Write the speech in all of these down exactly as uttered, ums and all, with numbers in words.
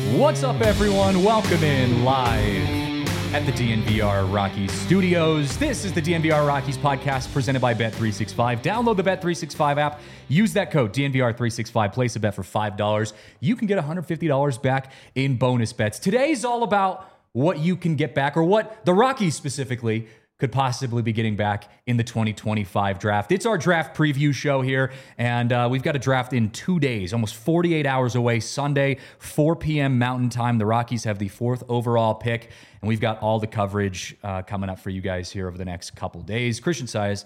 What's up, everyone? Welcome in live at the D N V R Rockies studios. This is the D N V R Rockies podcast presented by Bet three sixty-five. Download the Bet three sixty-five app. Use that code D N V R three sixty-five. Place a bet for five dollars. You can get one hundred fifty dollars back in bonus bets. Today's all about what you can get back, or what the Rockies specifically could possibly be getting back in the twenty twenty-five draft. It's our draft preview show here, and uh, we've got a draft in two days, almost forty-eight hours away, Sunday, four p.m. Mountain Time. The Rockies have the fourth overall pick, and we've got all the coverage uh, coming up for you guys here over the next couple days. Christian Size,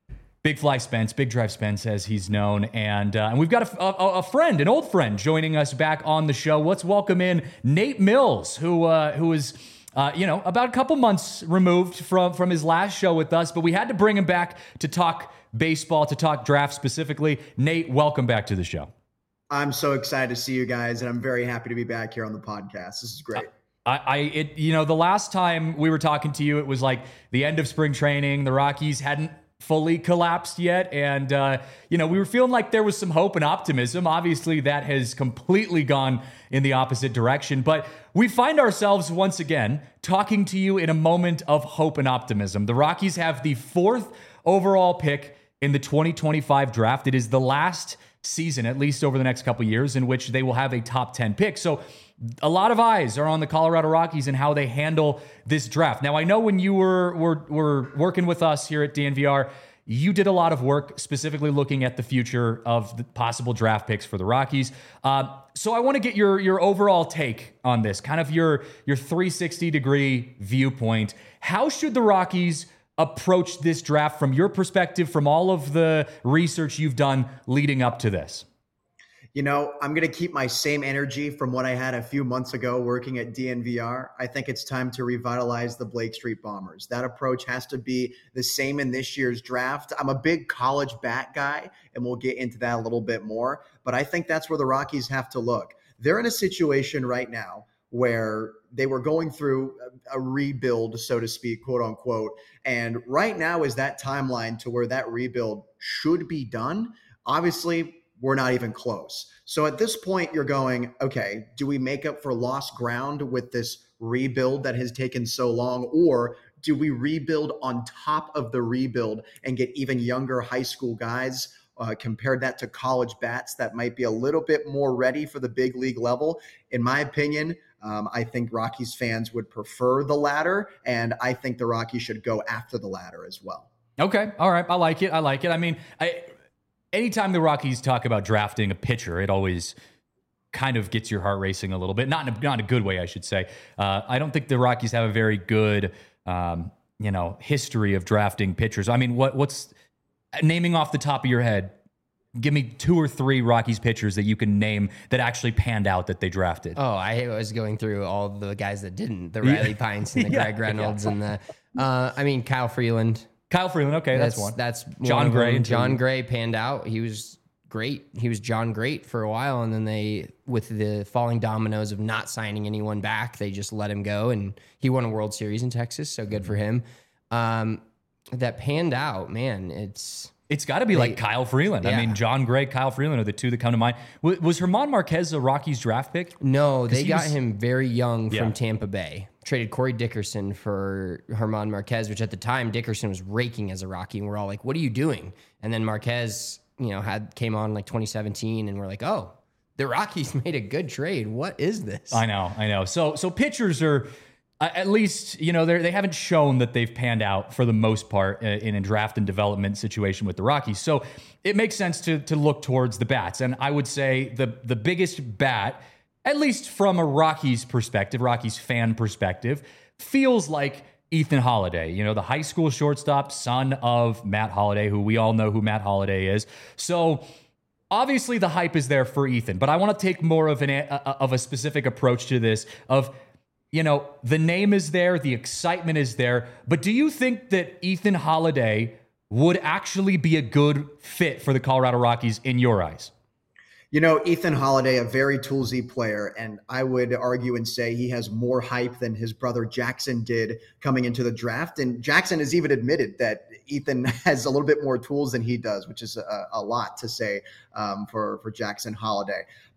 Big Fly Spence, Big Drive Spence, as he's known, and uh, and we've got a, a, a friend, an old friend, joining us back on the show. Let's welcome in Nate Mills, who uh, who is... Uh, you know, about a couple months removed from, from his last show with us, but we had to bring him back to talk baseball, to talk draft specifically. Nate, welcome back to the show. I'm so excited to see you guys, and I'm very happy to be back here on the podcast. This is great. I, I it, you know, the last time we were talking to you, it was like the end of spring training. The Rockies hadn't fully collapsed yet, and uh, you know, we were feeling like there was some hope and optimism. Obviously, that has completely gone in the opposite direction, but we find ourselves once again talking to you in a moment of hope and optimism. The Rockies have the fourth overall pick in the twenty twenty-five draft. It is the last season, at least over the next couple of years, in which they will have a top ten pick. So a lot of eyes are on the Colorado Rockies and how they handle this draft. Now, I know when you were, were, were working with us here at D N V R, you did a lot of work specifically looking at the future of the possible draft picks for the Rockies. Uh, so I want to get your your overall take on this, kind of your, your three sixty degree viewpoint. How should the Rockies approach this draft from your perspective, from all of the research you've done leading up to this? You know, I'm going to keep my same energy from what I had a few months ago working at D N V R. I think it's time to revitalize the Blake Street Bombers. That approach has to be the same in this year's draft. I'm a big college bat guy, and we'll get into that a little bit more. But I think that's where the Rockies have to look. They're in a situation right now where they were going through a rebuild, so to speak, quote unquote. And right now is that timeline to where that rebuild should be done. Obviously, we're not even close. So at this point, you're going, okay, do we make up for lost ground with this rebuild that has taken so long? Or do we rebuild on top of the rebuild and get even younger high school guys? Uh, compared that to college bats that might be a little bit more ready for the big league level. In my opinion, um, I think Rockies fans would prefer the latter, and I think the Rockies should go after the latter as well. Okay. All right. I like it. I like it. I mean, I... Anytime the Rockies talk about drafting a pitcher, it always kind of gets your heart racing a little bit. Not in a, not in a good way, I should say. Uh, I don't think the Rockies have a very good, um, you know, history of drafting pitchers. I mean, what what's naming off the top of your head? Give me two or three Rockies pitchers that you can name that actually panned out that they drafted. Oh, I was going through all the guys that didn't. The Riley Pines and the yeah, Greg Reynolds yeah. and the, uh, I mean, Kyle Freeland. Kyle Freeland, okay, that's, that's one. That's John one Gray. John Gray panned out. He was great. He was John Great for a while, and then they, with the falling dominoes of not signing anyone back, they just let him go, and he won a World Series in Texas, so good for him. Um, that panned out, man, it's... It's got to be they, like Kyle Freeland. Yeah. I mean, John Gray, Kyle Freeland are the two that come to mind. Was, was German Marquez a Rockies draft pick? No, they got was, him very young yeah. from Tampa Bay. Traded Corey Dickerson for German Marquez, which at the time Dickerson was raking as a Rocky, and we're all like, "What are you doing?" And then Marquez, you know, had came on like twenty seventeen, and we're like, "Oh, the Rockies made a good trade. What is this?" I know, I know. So, so pitchers are. Uh, at least, you know, they they haven't shown that they've panned out for the most part uh, in a draft and development situation with the Rockies. So it makes sense to to look towards the bats. And I would say the the biggest bat, at least from a Rockies perspective, Rockies fan perspective, feels like Ethan Holliday. You know, the high school shortstop, son of Matt Holliday, who we all know who Matt Holliday is. So obviously the hype is there for Ethan, but I want to take more of an a, of a specific approach to this of, you know, the name is there, the excitement is there, but do you think that Ethan Holliday would actually be a good fit for the Colorado Rockies in your eyes? You know, Ethan Holliday, a very toolsy player, and I would argue and say he has more hype than his brother Jackson did coming into the draft. And Jackson has even admitted that Ethan has a little bit more tools than he does, which is a, a lot to say um, for, for Jackson Holliday.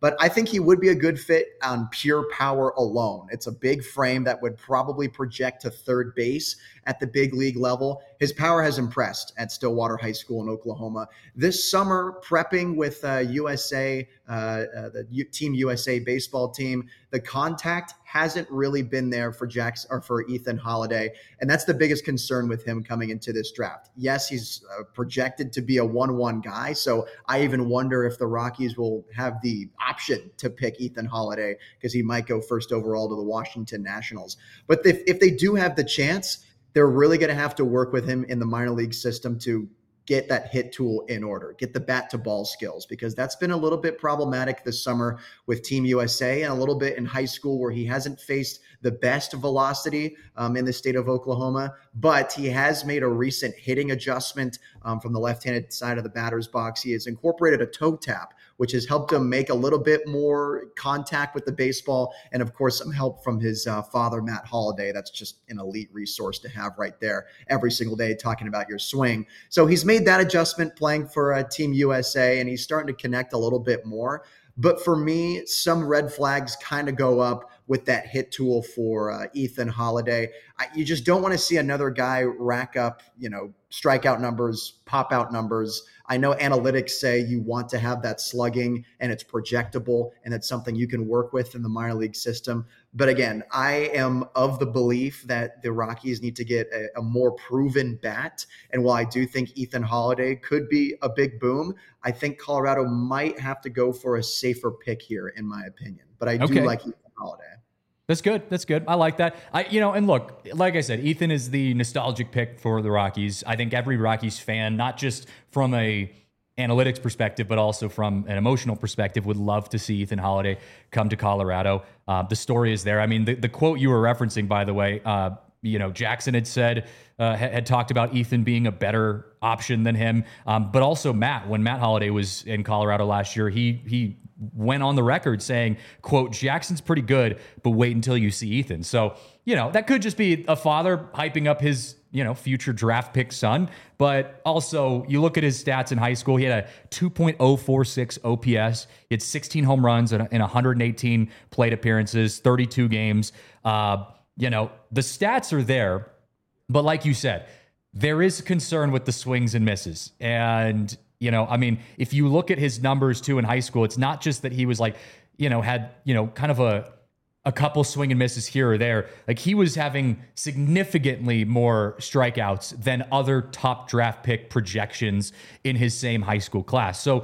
but I think he would be a good fit on pure power alone. It's a big frame that would probably project to third base at the big league level. His power has impressed at Stillwater High School in Oklahoma. This summer, prepping with uh, U S A, uh, uh, the U- Team U S A baseball team, the contact hasn't really been there for Jackson or for Ethan Holiday, and that's the biggest concern with him coming into this draft. Yes, he's uh, projected to be a one one guy, so I even wonder if the Rockies will have the option to pick Ethan Holiday because he might go first overall to the Washington Nationals. But if, if they do have the chance, they're really going to have to work with him in the minor league system to get that hit tool in order, get the bat to ball skills, because that's been a little bit problematic this summer with Team U S A and a little bit in high school where he hasn't faced the best velocity um, in the state of Oklahoma, but he has made a recent hitting adjustment um, from the left-handed side of the batter's box. He has incorporated a toe tap, which has helped him make a little bit more contact with the baseball. And of course, some help from his uh, father, Matt Holliday. That's just an elite resource to have right there every single day talking about your swing. So he's made that adjustment playing for uh, Team U S A, and he's starting to connect a little bit more. But for me, some red flags kind of go up with that hit tool for uh, Ethan Holiday. I, you just don't want to see another guy rack up, you know, strikeout numbers, pop out numbers. I know analytics say you want to have that slugging and it's projectable and it's something you can work with in the minor league system. But again, I am of the belief that the Rockies need to get a, a more proven bat. And while I do think Ethan Holiday could be a big boom, I think Colorado might have to go for a safer pick here, in my opinion. But I do Okay. like Ethan Holiday. That's good. That's good. I like that. I, you know, and look, like I said, Ethan is the nostalgic pick for the Rockies. I think every Rockies fan, not just from a analytics perspective, but also from an emotional perspective, would love to see Ethan Holiday come to Colorado. Uh, the story is there. I mean, the, the quote you were referencing, by the way, uh, you know, Jackson had said, uh, had, had talked about Ethan being a better option than him. Um, but also Matt, when Matt Holiday was in Colorado last year, he, he, went on the record saying, quote, Jackson's pretty good, but wait until you see Ethan. So, you know, that could just be a father hyping up his, you know, future draft pick son. But also, you look at his stats in high school, he had a two point oh four six O P S. He had sixteen home runs in one hundred eighteen plate appearances, thirty-two games. Uh, you know, the stats are there. But like you said, there is concern with the swings and misses. And you know, I mean, if you look at his numbers too in high school, it's not just that he was like, you know, had, you know, kind of a a couple swing and misses here or there. Like he was having significantly more strikeouts than other top draft pick projections in his same high school class. So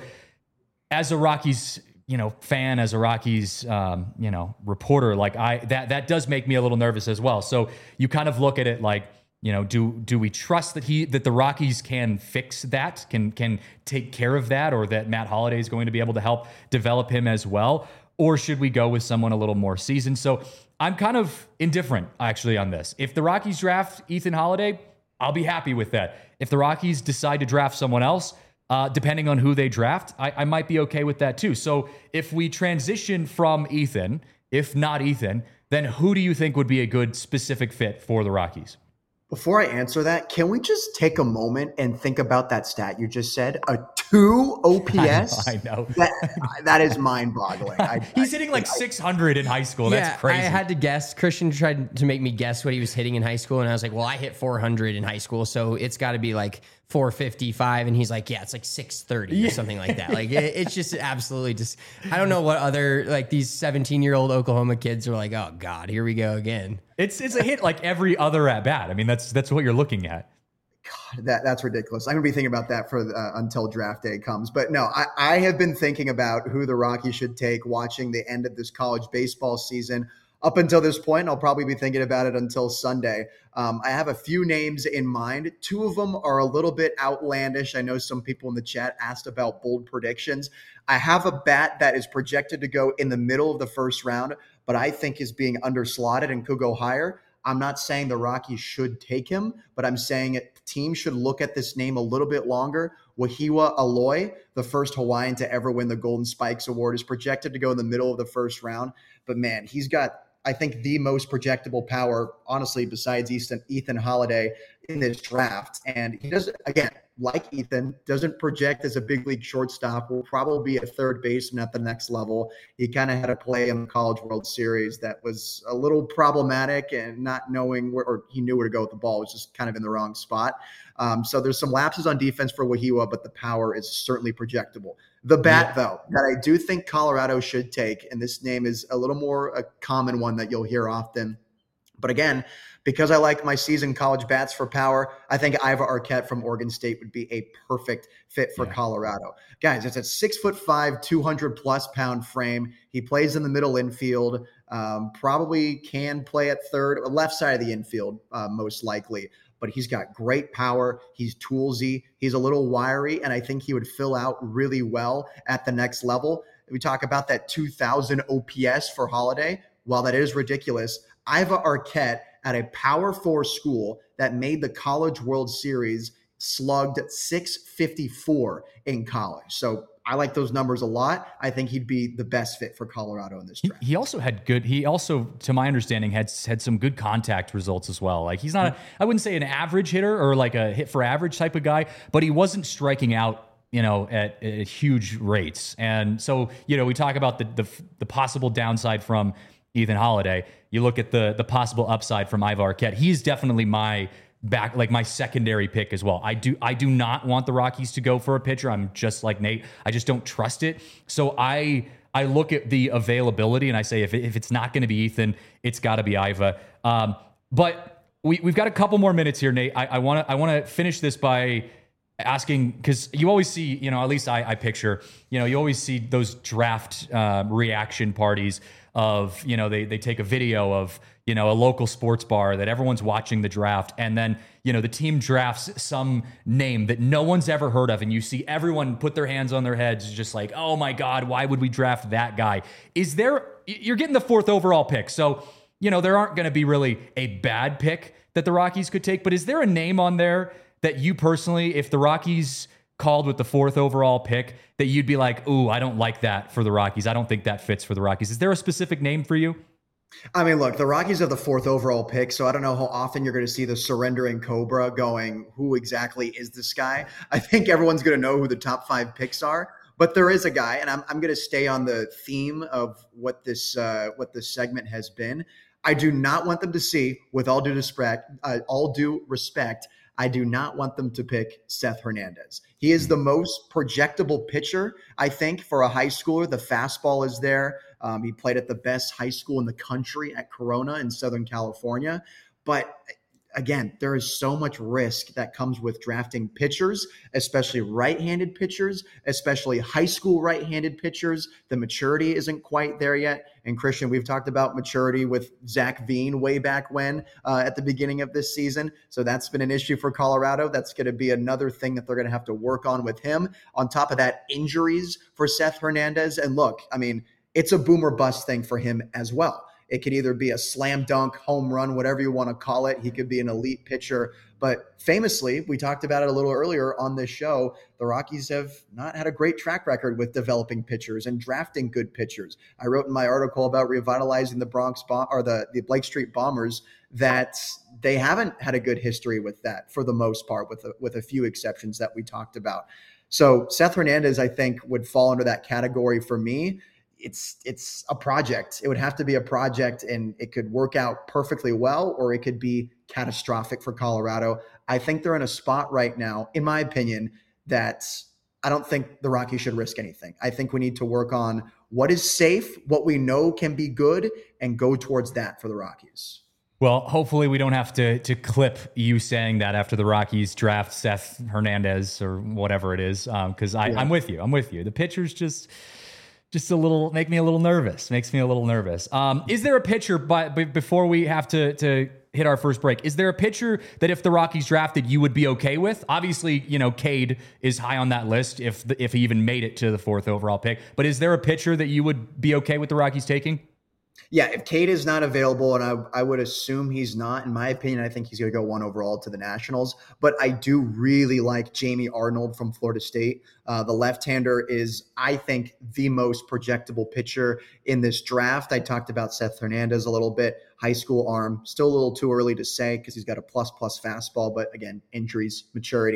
as a Rockies, you know, fan, as a Rockies, um, you know, reporter, like I, that, that does make me a little nervous as well. So you kind of look at it like, you know, do do we trust that he that the Rockies can fix that, can can take care of that, or that Matt Holiday is going to be able to help develop him as well? Or should we go with someone a little more seasoned? So I'm kind of indifferent actually on this. If the Rockies draft Ethan Holiday, I'll be happy with that. If the Rockies decide to draft someone else, uh, depending on who they draft, I, I might be okay with that too. So if we transition from Ethan, if not Ethan, then who do you think would be a good specific fit for the Rockies? Before I answer that, can we just take a moment and think about that stat you just said? A two O P S? I know. I know. That, that is mind-boggling. I, He's I, hitting like I, six hundred in high school. Yeah, That's crazy. I had to guess. Christian tried to make me guess what he was hitting in high school, and I was like, well, I hit four hundred in high school, so it's got to be like four fifty-five. And he's like, yeah, it's like six thirty or something like that. Like, it, it's just absolutely just, I don't know what other, like these seventeen-year-old Oklahoma kids are like, oh, God, here we go again. It's it's a hit like every other at bat. I mean, that's that's what you're looking at. God, that that's ridiculous. I'm gonna be thinking about that for uh, until draft day comes. But no, I, I have been thinking about who the Rockies should take watching the end of this college baseball season. Up until this point, I'll probably be thinking about it until Sunday. Um, I have a few names in mind. Two of them are a little bit outlandish. I know some people in the chat asked about bold predictions. I have a bat that is projected to go in the middle of the first round, but I think is being underslotted and could go higher. I'm not saying the Rockies should take him, but I'm saying it, teams should look at this name a little bit longer. Wahiwa Aloy, the first Hawaiian to ever win the Golden Spikes Award, is projected to go in the middle of the first round. But man, he's got, I think, the most projectable power, honestly, besides Ethan, Ethan Holiday in this draft. And he does, again, like Ethan, doesn't project as a big league shortstop, will probably be a third baseman at the next level. He kind of had a play in the College World Series that was a little problematic, and not knowing where, or he knew where to go with the ball, was just kind of in the wrong spot. Um, so there's some lapses on defense for Wahiwa, but the power is certainly projectable. The bat, yeah. though, that I do think Colorado should take, and this name is a little more a common one that you'll hear often. But again, because I like my seasoned college bats for power, I think Iva Arquette from Oregon State would be a perfect fit for yeah. Colorado. Guys, it's a six foot five, two hundred plus pound frame. He plays in the middle infield, um, probably can play at third, left side of the infield, uh, most likely. But he's got great power. He's toolsy. He's a little wiry, and I think he would fill out really well at the next level. We talk about that two thousand O P S for Holiday. While that is ridiculous, Iva Arquette at a Power Four school that made the College World Series slugged six fifty-four in college. So I like those numbers a lot. I think he'd be the best fit for Colorado in this draft. He also had good, he also, to my understanding, had had some good contact results as well. Like he's not, a, I wouldn't say an average hitter or like a hit for average type of guy, but he wasn't striking out, you know, at, at huge rates. And so, you know, we talk about the the, the possible downside from Ethan Holiday. You look at the the possible upside from Iva Arquette. He's definitely my back, like my secondary pick as well. I do I do not want the Rockies to go for a pitcher. I'm just like Nate. I just don't trust it. So I I look at the availability and I say if it, if it's not going to be Ethan, it's got to be Iva. Um, but we we've got a couple more minutes here, Nate. I want to I want to finish this by asking, because you always see, you know, at least I, I picture, you know, you always see those draft uh, reaction parties of, you know, they they take a video of, you know, a local sports bar that everyone's watching the draft, and then, you know, the team drafts some name that no one's ever heard of, and you see everyone put their hands on their heads just like, oh my God, why would we draft that guy? Is there, you're getting the fourth overall pick, so, you know, there aren't going to be really a bad pick that the Rockies could take, but is there a name on there that you personally, if the Rockies called with the fourth overall pick, that you'd be like, ooh, I don't like that for the Rockies. I don't think that fits for the Rockies. Is there a specific name for you? I mean, look, the Rockies have the fourth overall pick, so I don't know how often you're going to see the surrendering Cobra going, who exactly is this guy? I think everyone's going to know who the top five picks are, but there is a guy, and I'm I'm going to stay on the theme of what this uh, what this segment has been. I do not want them to see, with all due respect, uh, all due respect, I do not want them to pick Seth Hernandez. He is the most projectable pitcher, I think, for a high schooler. The fastball is there. Um, he played at the best high school in the country at Corona in Southern California. But again, there is so much risk that comes with drafting pitchers, especially right-handed pitchers, especially high school right-handed pitchers. The maturity isn't quite there yet. And Christian, we've talked about maturity with Zach Veen way back when uh, at the beginning of this season. So that's been an issue for Colorado. That's going to be another thing that they're going to have to work on with him. On top of that, injuries for Seth Hernandez. And look, I mean, it's a boom or bust thing for him as well. It could either be a slam dunk, home run, whatever you want to call it. He could be an elite pitcher. But famously, we talked about it a little earlier on this show, the Rockies have not had a great track record with developing pitchers and drafting good pitchers. I wrote in my article about revitalizing the Bronx Bom- or the, the Blake Street Bombers that they haven't had a good history with that for the most part, with a, with a few exceptions that we talked about. So Seth Hernandez, I think, would fall under that category for me. It's it's a project. It would have to be a project, and it could work out perfectly well, or it could be catastrophic for Colorado. I think they're in a spot right now, in my opinion, that I don't think the Rockies should risk anything. I think we need to work on what is safe, what we know can be good, and go towards that for the Rockies. Well, hopefully we don't have to to clip you saying that after the Rockies draft Seth Hernandez or whatever it is, because um, yeah. I'm with you. I'm with you. The pitcher's just... Just a little, make me a little nervous. Makes me a little nervous. Um, is there a pitcher, by, by, before we have to to hit our first break, is there a pitcher that if the Rockies drafted, you would be okay with? Obviously, you know, Cade is high on that list if the, if he even made it to the fourth overall pick. But is there a pitcher that you would be okay with the Rockies taking? Yeah, if Cade is not available, and I, I would assume he's not, in my opinion, I think he's going to go one overall to the Nationals. But I do really like Jamie Arnold from Florida State. Uh, the left-hander is, I think, the most projectable pitcher in this draft. I talked about Seth Hernandez a little bit. High school arm, still a little too early to say because he's got a plus-plus fastball. But again, injuries, maturity.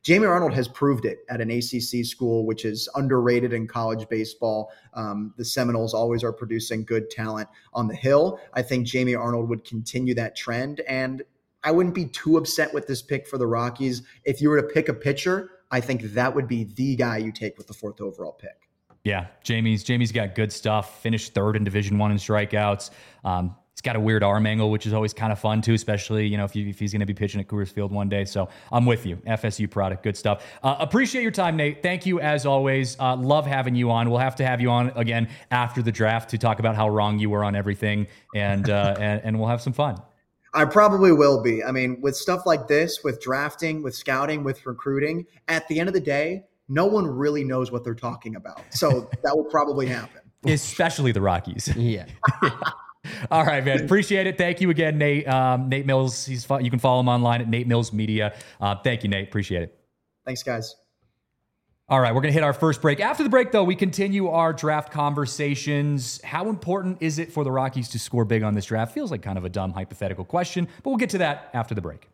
Jamie Arnold has proved it at an A C C school, which is underrated in college baseball. Um, the Seminoles always are producing good talent on the Hill. I think Jamie Arnold would continue that trend, and I wouldn't be too upset with this pick for the Rockies. If you were to pick a pitcher, I think that would be the guy you take with the fourth overall pick. Yeah, Jamie's Jamie's got good stuff. Finished third in Division One in strikeouts. Um, he's got a weird arm angle, which is always kind of fun too, especially you know if, you, if he's going to be pitching at Coors Field one day. So I'm with you. F S U product, good stuff. Uh, appreciate your time, Nate. Thank you as always. Uh, love having you on. We'll have to have you on again after the draft to talk about how wrong you were on everything, and uh, and, and we'll have some fun. I probably will be. I mean, with stuff like this, with drafting, with scouting, with recruiting, at the end of the day, no one really knows what they're talking about. So that will probably happen. Especially the Rockies. Yeah. All right, man. Appreciate it. Thank you again, Nate. Um, Nate Mills. He's You can follow him online at Nate Mills Media. Uh, thank you, Nate. Appreciate it. Thanks, guys. All right, we're going to hit our first break. After the break, though, we continue our draft conversations. How important is it for the Rockies to score big on this draft? Feels like kind of a dumb hypothetical question, but we'll get to that after the break.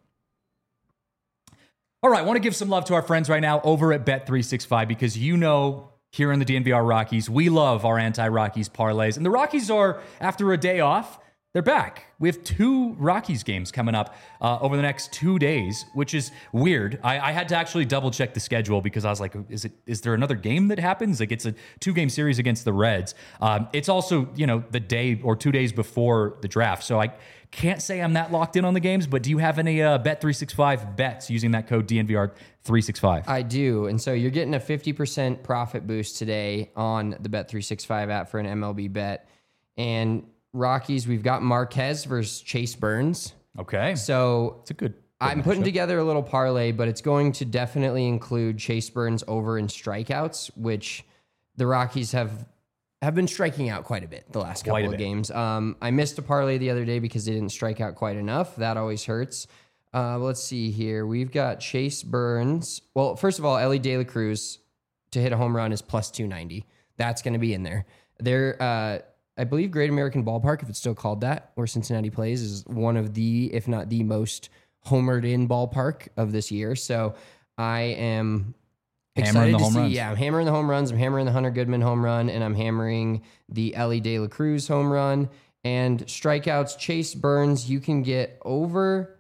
All right, I want to give some love to our friends right now over at Bet three sixty-five because you know here in the D N V R Rockies, we love our anti-Rockies parlays. And the Rockies are, after a day off, they're back. We have two Rockies games coming up uh, over the next two days, which is weird. I, I had to actually double check the schedule because I was like, is it is there another game that happens? Like it's a two game series against the Reds. Um, it's also, you know, the day or two days before the draft. So I can't say I'm that locked in on the games, but do you have any uh, Bet three sixty-five bets using that code D N V R three sixty-five? I do. And so you're getting a fifty percent profit boost today on the Bet three sixty-five app for an M L B bet. And Rockies, we've got Marquez versus Chase Burns. Okay. So it's a good. good I'm putting matchup. together a little parlay, but it's going to definitely include Chase Burns over in strikeouts, which the Rockies have have been striking out quite a bit the last Quite a couple of bit. games. Um, I missed a parlay the other day because they didn't strike out quite enough. That always hurts. Uh, let's see here. We've got Chase Burns. Well, first of all, Ellie De La Cruz to hit a home run is plus two ninety. That's going to be in there. They're, uh, I believe Great American Ballpark, if it's still called that, where Cincinnati plays, is one of the, if not the most homered in ballpark of this year. So I am Hammering excited the to home see. runs. Yeah, I'm hammering the home runs. I'm hammering the Hunter Goodman home run, and I'm hammering the Ellie De La Cruz home run. And strikeouts, Chase Burns, you can get over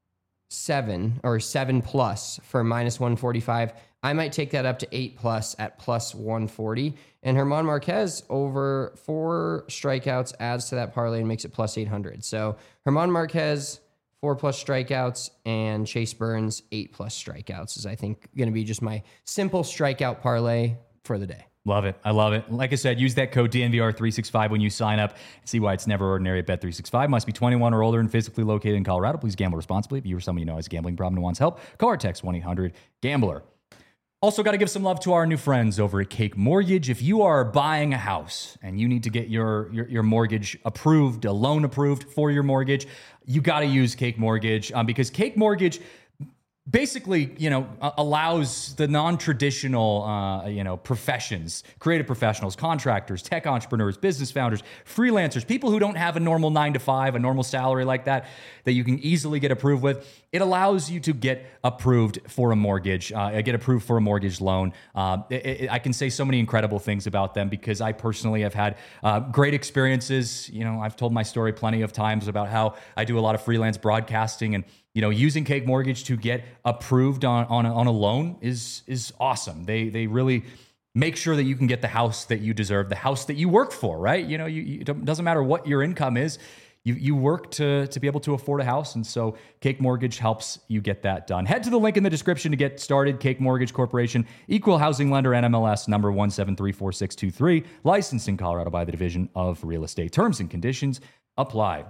seven or seven plus for minus one forty-five. I might take that up to eight plus at plus one forty. And Herman Marquez over four strikeouts adds to that parlay and makes it plus eight hundred. So Herman Marquez, four plus strikeouts, and Chase Burns, eight plus strikeouts is, I think, going to be just my simple strikeout parlay for the day. Love it. I love it. Like I said, use that code D N V R three sixty-five when you sign up. See why it's never ordinary at Bet three sixty-five. Must be twenty-one or older and physically located in Colorado. Please gamble responsibly. If you or someone you know has a gambling problem and wants help, call or text one eight hundred gambler. Also, got to give some love to our new friends over at Cake Mortgage. If you are buying a house and you need to get your, your, your mortgage approved, a loan approved for your mortgage, you got to use Cake Mortgage um, because Cake Mortgage basically, you know, allows the non-traditional, uh, you know, professions, creative professionals, contractors, tech entrepreneurs, business founders, freelancers, people who don't have a normal nine to five, a normal salary like that, that you can easily get approved with. It allows you to get approved for a mortgage, uh, get approved for a mortgage loan. Uh, it, it, I can say so many incredible things about them because I personally have had uh, great experiences. You know, I've told my story plenty of times about how I do a lot of freelance broadcasting, and you know, using Cake Mortgage to get approved on on a, on a loan is is awesome. They they really make sure that you can get the house that you deserve, the house that you work for, right? You know, you, you it doesn't matter what your income is. You you work to to be able to afford a house, and so Cake Mortgage helps you get that done. Head to the link in the description to get started. Cake Mortgage Corporation, equal housing lender, N M L S number one seven three four six two three, licensed in Colorado by the Division of Real Estate. Terms and conditions apply.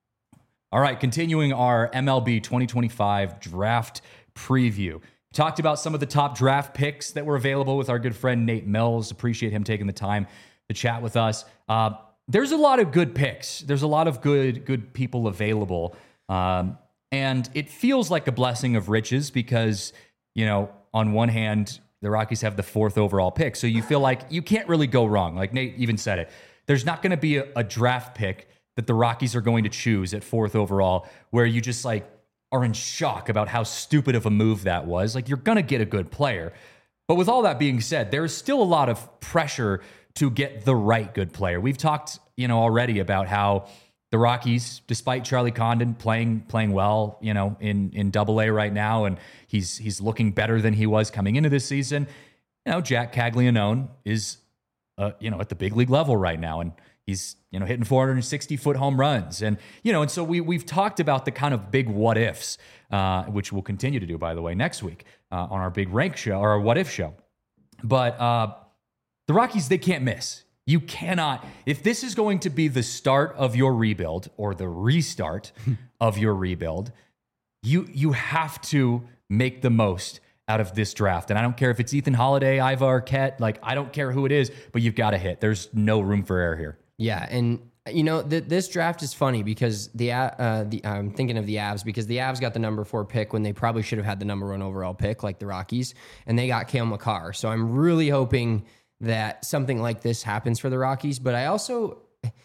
All right, continuing our M L B twenty twenty-five draft preview. Talked about some of the top draft picks that were available with our good friend Nate Mills. Appreciate him taking the time to chat with us. Uh, there's a lot of good picks. There's a lot of good good people available. Um, and it feels like a blessing of riches because, you know, on one hand, the Rockies have the fourth overall pick. So you feel like you can't really go wrong. Like Nate even said it. There's not going to be a, a draft pick that the Rockies are going to choose at fourth overall where you just like, are in shock about how stupid of a move that was. Like, you're going to get a good player. But with all that being said, there's still a lot of pressure to get the right good player. We've talked, you know, already about how the Rockies, despite Charlie Condon playing playing well, you know, in in Double A right now, and he's he's looking better than he was coming into this season. You know, Jack Caglianone is, uh, you know, at the big league level right now, and he's, you know, hitting four hundred sixty foot home runs, and you know, and so we we've talked about the kind of big what ifs, uh, which we'll continue to do, by the way, next week uh, on our big rank show or our what if show. But uh, the Rockies, they can't miss. You cannot, if this is going to be the start of your rebuild or the restart of your rebuild, you you have to make the most out of this draft. And I don't care if it's Ethan Holiday, Iva Arquette, like I don't care who it is, but you've got to hit. There's no room for error here. Yeah, and you know th- this draft is funny because the uh, the I'm thinking of the Avs because the Avs got the number four pick when they probably should have had the number one overall pick, like the Rockies, and they got Cale Makar. So I'm really hoping that something like this happens for the Rockies. But I also,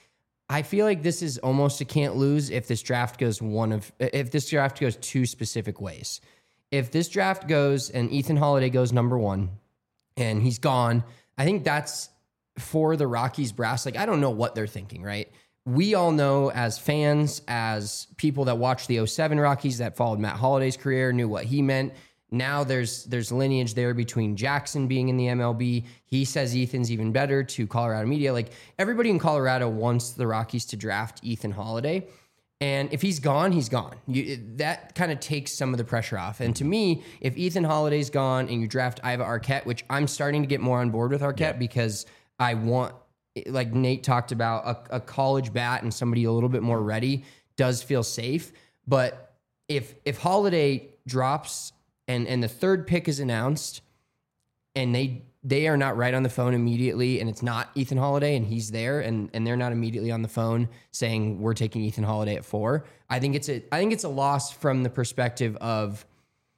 I feel like this is almost a can't lose if this draft goes one of, if this draft goes two specific ways. If this draft goes and Ethan Holiday goes number one and he's gone, I think that's for the Rockies brass. Like, I don't know what they're thinking, right? We all know as fans, as people that watched the oh seven Rockies that followed Matt Holiday's career, knew what he meant. Now there's there's lineage there between Jackson being in the M L B. He says Ethan's even better to Colorado media. Like, everybody in Colorado wants the Rockies to draft Ethan Holiday. And if he's gone, he's gone. You, that kind of takes some of the pressure off. And to me, if Ethan Holiday's gone and you draft Iva Arquette, which I'm starting to get more on board with Arquette yeah. because I want, like Nate talked about, a, a college bat and somebody a little bit more ready does feel safe. But if if Holiday drops and and the third pick is announced and they they are not right on the phone immediately and it's not Ethan Holiday and he's there and and they're not immediately on the phone saying we're taking Ethan Holiday at four, I think it's a I think it's a loss from the perspective of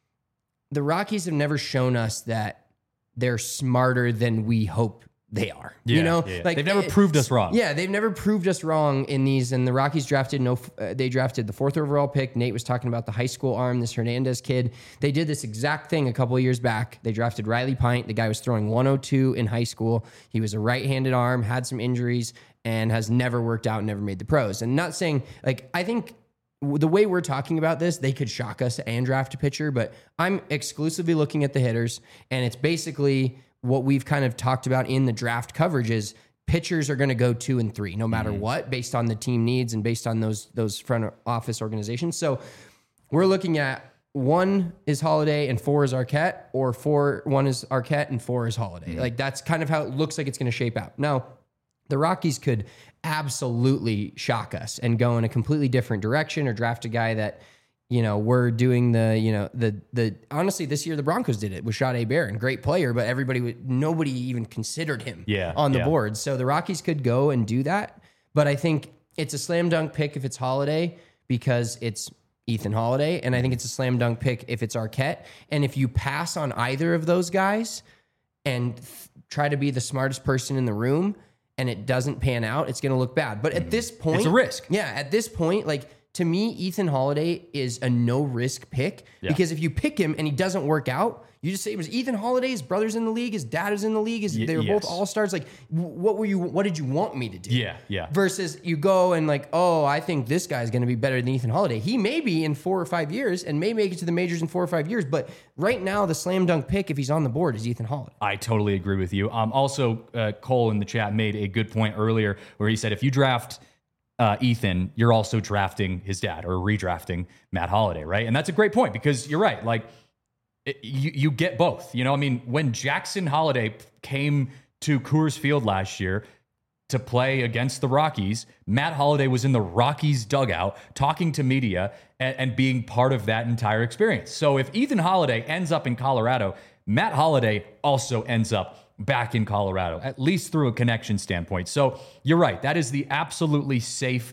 the Rockies have never shown us that they're smarter than we hope they are. Yeah, you know, yeah. like they've never it, proved us wrong. Yeah, they've never proved us wrong in these. And the Rockies drafted no. Uh, they drafted the fourth overall pick. Nate was talking about the high school arm, this Hernandez kid. They did this exact thing a couple of years back. They drafted Riley Pint. The guy was throwing one oh two in high school. He was a right-handed arm, had some injuries, and has never worked out and never made the pros. And not saying like I think. The way we're talking about this, they could shock us and draft a pitcher, but I'm exclusively looking at the hitters, and it's basically what we've kind of talked about in the draft coverage is pitchers are going to go two and three no matter mm-hmm. what, based on the team needs and based on those those front office organizations. So we're looking at one is Holiday and four is Arquette, or four one is Arquette and four is Holiday. Mm-hmm. Like that's kind of how it looks like it's going to shape out. Now, the Rockies could absolutely shock us and go in a completely different direction or draft a guy that, you know, we're doing the, you know, the, the, honestly, this year the Broncos did it with Sade Barron, great player, but everybody, would, nobody even considered him yeah, on the yeah. board. So the Rockies could go and do that. But I think it's a slam dunk pick if it's Holiday because it's Ethan Holiday. And I think it's a slam dunk pick if it's Arquette. And if you pass on either of those guys and th- try to be the smartest person in the room, and it doesn't pan out, it's going to look bad. But at this point... It's a risk. Yeah, at this point, like, to me, Ethan Holiday is a no-risk pick. Yeah. Because if you pick him and he doesn't work out, you just say it was Ethan Holiday, his brother's in the league, his dad is in the league, his, y- they were yes. both all-stars. Like, what were you? What did you want me to do? Yeah, yeah. Versus you go and like, oh, I think this guy's going to be better than Ethan Holiday. He may be in four or five years and may make it to the majors in four or five years, but right now the slam dunk pick, if he's on the board, is Ethan Holiday. I totally agree with you. Um, also, uh, Cole in the chat made a good point earlier where he said if you draft uh, Ethan, you're also drafting his dad or redrafting Matt Holiday, right? And that's a great point because you're right. Like, It, you you get both. You know, I mean, when Jackson Holiday came to Coors Field last year to play against the Rockies, Matt Holiday was in the Rockies dugout talking to media and, and being part of that entire experience. So if Ethan Holiday ends up in Colorado, Matt Holiday also ends up back in Colorado, at least through a connection standpoint. So you're right. That is the absolutely safe,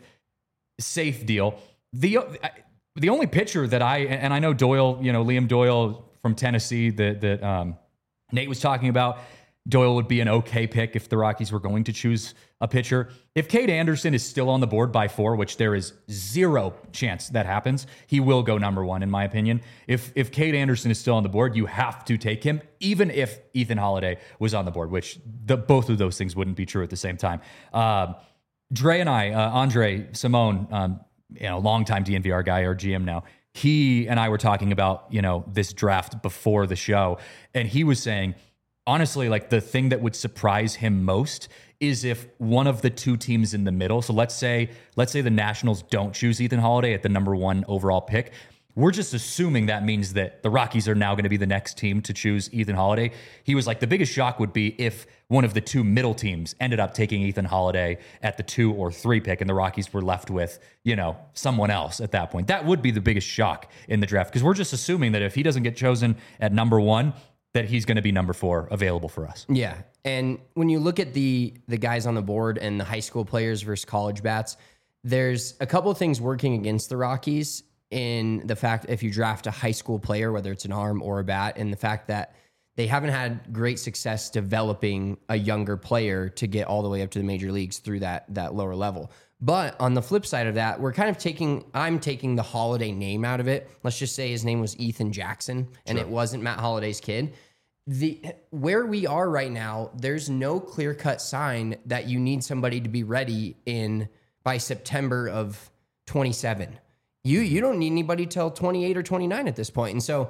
safe deal. The the only pitcher that I, and I know Doyle, you know, Liam Doyle from Tennessee that, that um, Nate was talking about, Doyle would be an okay pick if the Rockies were going to choose a pitcher. If Cade Anderson is still on the board by four, which there is zero chance that happens, he will go number one, in my opinion. If if Cade Anderson is still on the board, you have to take him, even if Ethan Holiday was on the board, which the, both of those things wouldn't be true at the same time. Uh, Dre and I, uh, Andre Simone, um, you know, longtime D N V R guy, our G M now, he and I were talking about, you know, this draft before the show, and he was saying, honestly, like the thing that would surprise him most is if one of the two teams in the middle, so let's say let's say the Nationals don't choose Ethan Holiday at the number one overall pick. We're just assuming that means that the Rockies are now going to be the next team to choose Ethan Holiday. He was like, the biggest shock would be if one of the two middle teams ended up taking Ethan Holiday at the two or three pick and the Rockies were left with, you know, someone else at that point. That would be the biggest shock in the draft, because we're just assuming that if he doesn't get chosen at number one, that he's going to be number four available for us. Yeah. And when you look at the the guys on the board and the high school players versus college bats, there's a couple of things working against the Rockies in the fact if you draft a high school player, whether it's an arm or a bat, and the fact that they haven't had great success developing a younger player to get all the way up to the major leagues through that that lower level. But on the flip side of that, we're kind of taking, I'm taking the Holiday name out of it. Let's just say his name was Ethan Jackson and sure. It wasn't Matt Holiday's kid. The where we are right now, there's no clear-cut sign that you need somebody to be ready in by September of twenty-seven. You you don't need anybody till twenty-eight or twenty-nine at this point. And so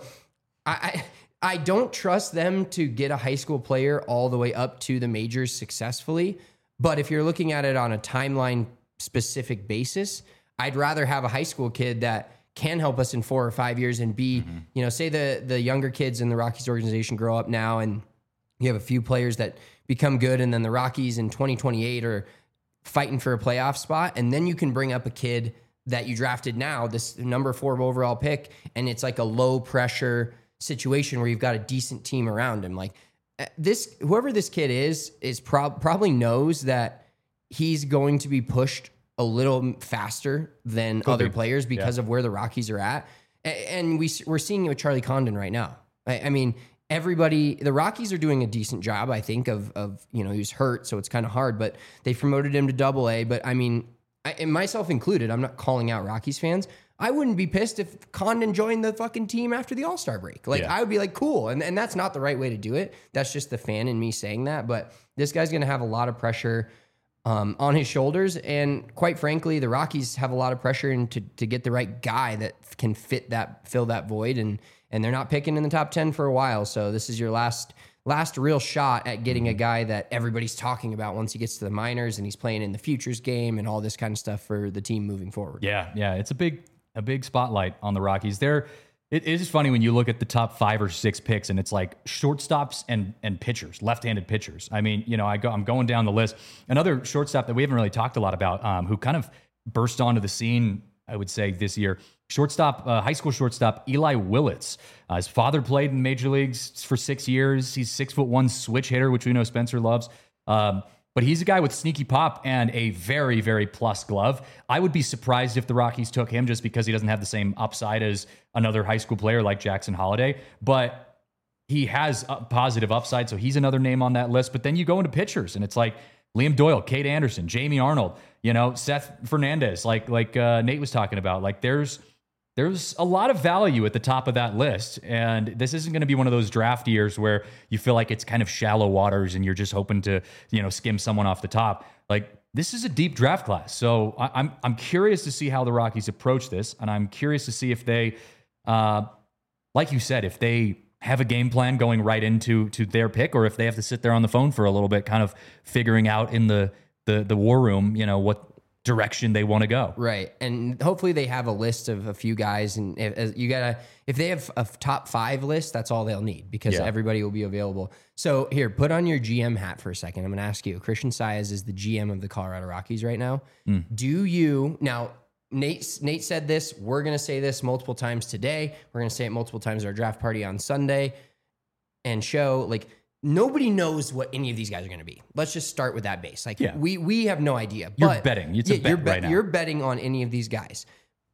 I, I I don't trust them to get a high school player all the way up to the majors successfully. But if you're looking at it on a timeline specific basis, I'd rather have a high school kid that can help us in four or five years and be, mm-hmm. you know, say the the younger kids in the Rockies organization grow up now and you have a few players that become good, and then the Rockies in twenty twenty-eight are fighting for a playoff spot, and then you can bring up a kid that you drafted now, this number four overall pick, and it's like a low pressure situation where you've got a decent team around him. Like this, whoever this kid is, is prob- probably knows that he's going to be pushed a little faster than Could other be. players because yeah. of where the Rockies are at. And we, we're seeing it with Charlie Condon right now. I, I mean, everybody, the Rockies are doing a decent job, I think, of, of you know, he was hurt, so it's kind of hard, but they promoted him to double A. But I mean, I, and myself included, I'm not calling out Rockies fans. I wouldn't be pissed if Condon joined the fucking team after the All-Star break. Like, yeah. I would be like, cool. And, and that's not the right way to do it. That's just the fan in me saying that. But this guy's going to have a lot of pressure Um, on his shoulders, and quite frankly, the Rockies have a lot of pressure in to, to get the right guy that can fit that, fill that void, and and they're not picking in the top ten for a while. So this is your last last real shot at getting a guy that everybody's talking about once he gets to the minors and he's playing in the futures game and all this kind of stuff for the team moving forward. Yeah, yeah, it's a big a big spotlight on the Rockies. They're It is funny when you look at the top five or six picks and it's like shortstops and and pitchers, left-handed pitchers. I mean, you know, I go, I'm going down the list. Another shortstop that we haven't really talked a lot about, um, who kind of burst onto the scene, I would say, this year, shortstop, uh, high school shortstop Eli Willits. Uh, his father played in major leagues for six years. He's six foot one switch hitter, which we know Spencer loves. Um, But he's a guy with sneaky pop and a very, very plus glove. I would be surprised if the Rockies took him just because he doesn't have the same upside as another high school player like Jackson Holiday. But he has a positive upside, so he's another name on that list. But then you go into pitchers, and it's like Liam Doyle, Cade Anderson, Jamie Arnold, you know, Seth Fernandez, like like uh, Nate was talking about. Like there's There's a lot of value at the top of that list, and this isn't going to be one of those draft years where you feel like it's kind of shallow waters and you're just hoping to, you know, skim someone off the top. Like this is a deep draft class, so I, I'm I'm curious to see how the Rockies approach this, and I'm curious to see if they, uh, like you said, if they have a game plan going right into to their pick, or if they have to sit there on the phone for a little bit, kind of figuring out in the the the war room, you know, what direction they want to go. Right. And hopefully they have a list of a few guys, and if, you gotta, if they have a top five list, that's all they'll need because yeah. everybody will be available. So here, put on your G M hat for a second. I'm going to ask you, Christian Saez is the G M of the Colorado Rockies right now. Mm. Do you, now Nate, Nate said this, we're going to say this multiple times today. We're going to say it multiple times at our draft party on Sunday and show like, nobody knows what any of these guys are going to be. Let's just start with that base. Like yeah. we we have no idea. You're but betting. It's a bet you're bet, right now. You're betting on any of these guys.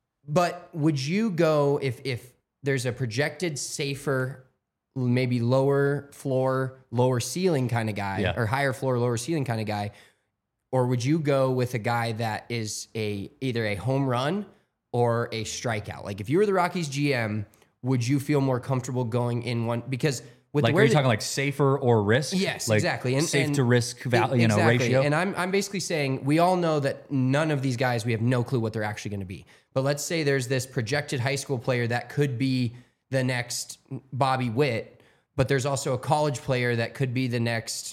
But would you go if if there's a projected safer, maybe lower floor, lower ceiling kind of guy, yeah. or higher floor, lower ceiling kind of guy? or would you go with a guy that is a either a home run or a strikeout? Like if you were the Rockies G M, would you feel more comfortable going in one because with like, where are you the, talking like safer or risk? Yes, like exactly. And safe and to risk value, you know, exactly. ratio. And I'm I'm basically saying we all know that none of these guys, we have no clue what they're actually going to be. But let's say there's this projected high school player that could be the next Bobby Witt, but there's also a college player that could be the next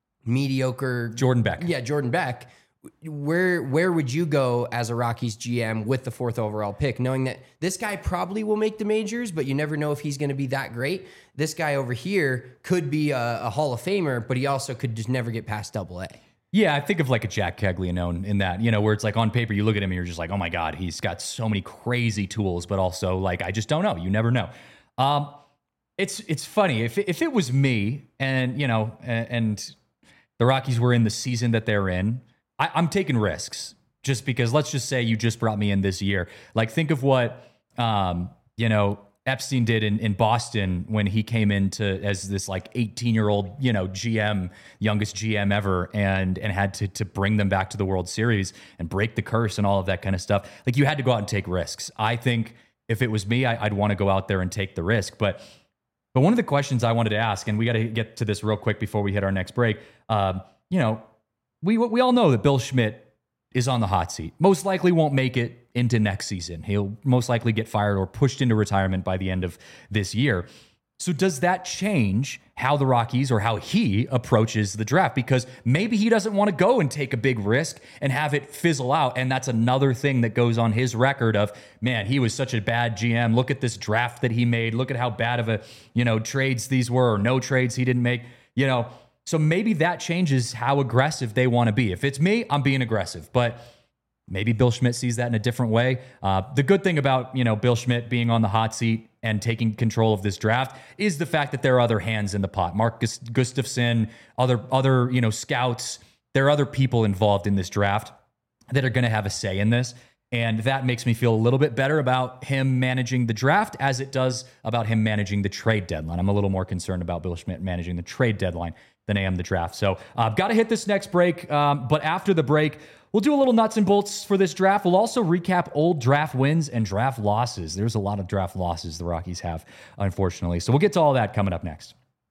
mediocre Jordan Beck. Yeah, Jordan Beck. Where where would you go as a Rockies G M with the fourth overall pick, knowing that this guy probably will make the majors, but you never know if he's going to be that great? This guy over here could be a, a Hall of Famer, but he also could just never get past Double A. Yeah, I think of like a Jack Caglianone in that, you know, where it's like on paper, you look at him and you're just like, oh my God, he's got so many crazy tools, but also like, I just don't know. You never know. Um, it's it's funny. If, if it was me and, you know, and, and the Rockies were in the season that they're in, I, I'm taking risks just because let's just say you just brought me in this year. Like think of what, um, you know, Epstein did in, in Boston when he came into as this like eighteen year old, you know, G M, youngest G M ever, and and had to to bring them back to the World Series and break the curse and all of that kind of stuff. Like you had to go out and take risks. I think if it was me, I, I'd want to go out there and take the risk. But but one of the questions I wanted to ask, and we got to get to this real quick before we hit our next break. Um, you know, we we all know that Bill Schmidt is on the hot seat. Most likely won't make it into next season. He'll most likely get fired or pushed into retirement by the end of this year. So does that change how the Rockies or how he approaches the draft? Because maybe he doesn't want to go and take a big risk and have it fizzle out. And that's another thing that goes on his record of, man, he was such a bad G M. Look at this draft that he made. Look at how bad of a, you know, trades these were or no trades he didn't make, you know. So maybe that changes how aggressive they want to be. If it's me, I'm being aggressive, but maybe Bill Schmidt sees that in a different way. Uh, the good thing about, you know, Bill Schmidt being on the hot seat and taking control of this draft is the fact that there are other hands in the pot. Mark Gustafson, other, other, you know, scouts, there are other people involved in this draft that are going to have a say in this. And that makes me feel a little bit better about him managing the draft as it does about him managing the trade deadline. I'm a little more concerned about Bill Schmidt managing the trade deadline than I am the draft. So I've uh, got to hit this next break. Um, but after the break, we'll do a little nuts and bolts for this draft. We'll also recap old draft wins and draft losses. There's a lot of draft losses the Rockies have, unfortunately. So we'll get to all that coming up next.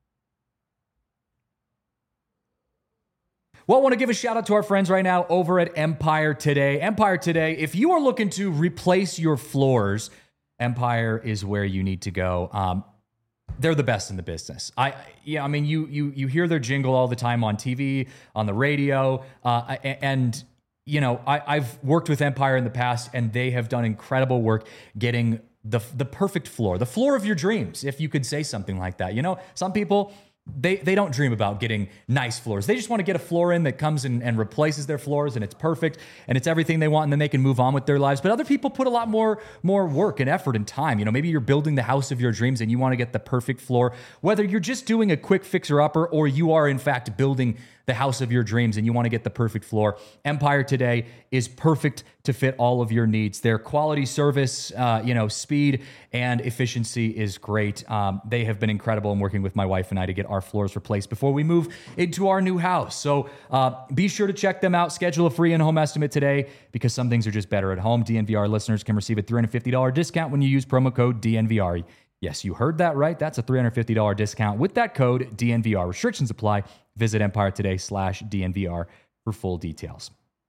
Well, I want to give a shout out to our friends right now over at Empire Today. Empire Today, if you are looking to replace your floors, Empire is where you need to go. Um, They're the best in the business. I, yeah, I mean, you you you hear their jingle all the time on T V, on the radio, uh, and you know, I, I've worked with Empire in the past, and they have done incredible work getting the the perfect floor, the floor of your dreams, if you could say something like that. You know, some people, They they don't dream about getting nice floors. They just want to get a floor in that comes in and replaces their floors and it's perfect and it's everything they want and then they can move on with their lives. But other people put a lot more more work and effort and time. You know, maybe you're building the house of your dreams and you want to get the perfect floor. Whether you're just doing a quick fixer-upper or you are in fact building the house of your dreams and you want to get the perfect floor, Empire Today is perfect to fit all of your needs. Their quality service, uh, you know, speed and efficiency is great. Um, they have been incredible in working with my wife and I to get our floors replaced before we move into our new house. So uh, be sure to check them out. Schedule a free in-home estimate today because some things are just better at home. D N V R listeners can receive a three hundred fifty dollars discount when you use promo code D N V R. Yes, you heard that right. That's a three hundred fifty dollars discount with that code D N V R. Restrictions apply. Visit Empire Today slash D N V R for full details.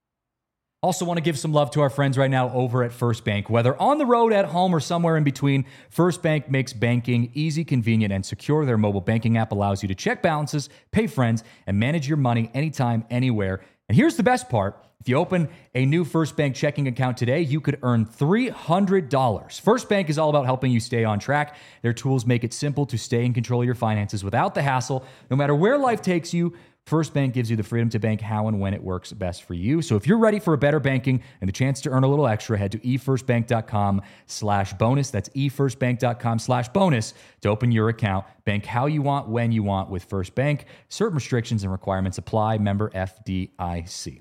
Also want to give some love to our friends right now over at First Bank. Whether on the road, at home, or somewhere in between, First Bank makes banking easy, convenient, and secure. Their mobile banking app allows you to check balances, pay friends, and manage your money anytime, anywhere. And here's the best part. If you open a new First Bank checking account today, you could earn three hundred dollars. First Bank is all about helping you stay on track. Their tools make it simple to stay in control of your finances without the hassle. No matter where life takes you, First Bank gives you the freedom to bank how and when it works best for you. So if you're ready for a better banking and the chance to earn a little extra, head to efirstbank.com slash bonus. That's efirstbank.com slash bonus to open your account. Bank how you want, when you want with First Bank. Certain restrictions and requirements apply. Member F D I C.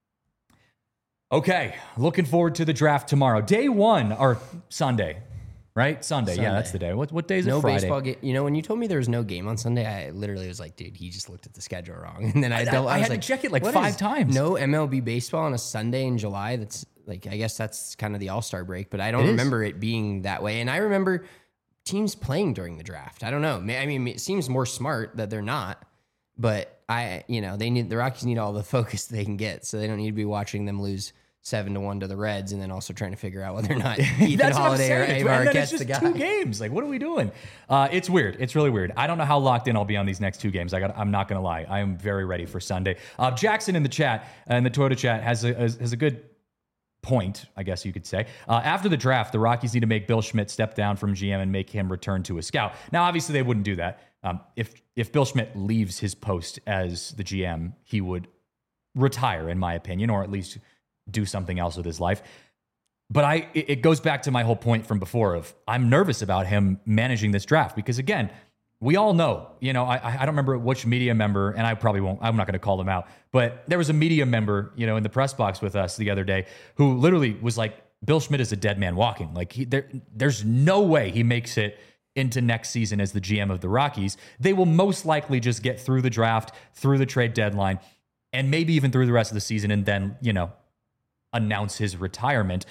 Okay, looking forward to the draft tomorrow. Day one, or Sunday. right? Sunday. Sunday. Yeah, that's the day. What what day is it? No Friday. baseball game. You know, when you told me there was no game on Sunday, I literally was like, dude, he just looked at the schedule wrong. And then I, I, I, I was had like, to check it like what five is times. No M L B baseball on a Sunday in July. That's like, I guess that's kind of the All-Star break, but I don't It is. remember it being that way. And I remember teams playing during the draft. I don't know. I mean, it seems more smart that they're not, but I, you know, they need, the Rockies need all the focus they can get. So they don't need to be watching them lose seven to one to the Reds, and then also trying to figure out whether or not Ethan That's what I'm Holiday or saying. Avar And then gets it's the just guy. two games. Like, what are we doing? Uh, it's weird. It's really weird. I don't know how locked in I'll be on these next two games. I got. I'm not going to lie. I am very ready for Sunday. Uh, Jackson in the chat, uh, in the Toyota chat, has a has a good point, I guess you could say. Uh, after the draft, the Rockies need to make Bill Schmidt step down from G M and make him return to a scout. Now, obviously, they wouldn't do that. Um, if if Bill Schmidt leaves his post as the G M, he would retire, in my opinion, or at least do something else with his life. But I, it goes back to my whole point from before of I'm nervous about him managing this draft because, again, we all know, you know, I, I don't remember which media member, and I probably won't, I'm not going to call them out, but there was a media member, you know, in the press box with us the other day who literally was like, Bill Schmidt is a dead man walking. Like, he, there, there's no way he makes it into next season as the G M of the Rockies. They will most likely just get through the draft, through the trade deadline, and maybe even through the rest of the season, and then, you know, announce his retirement.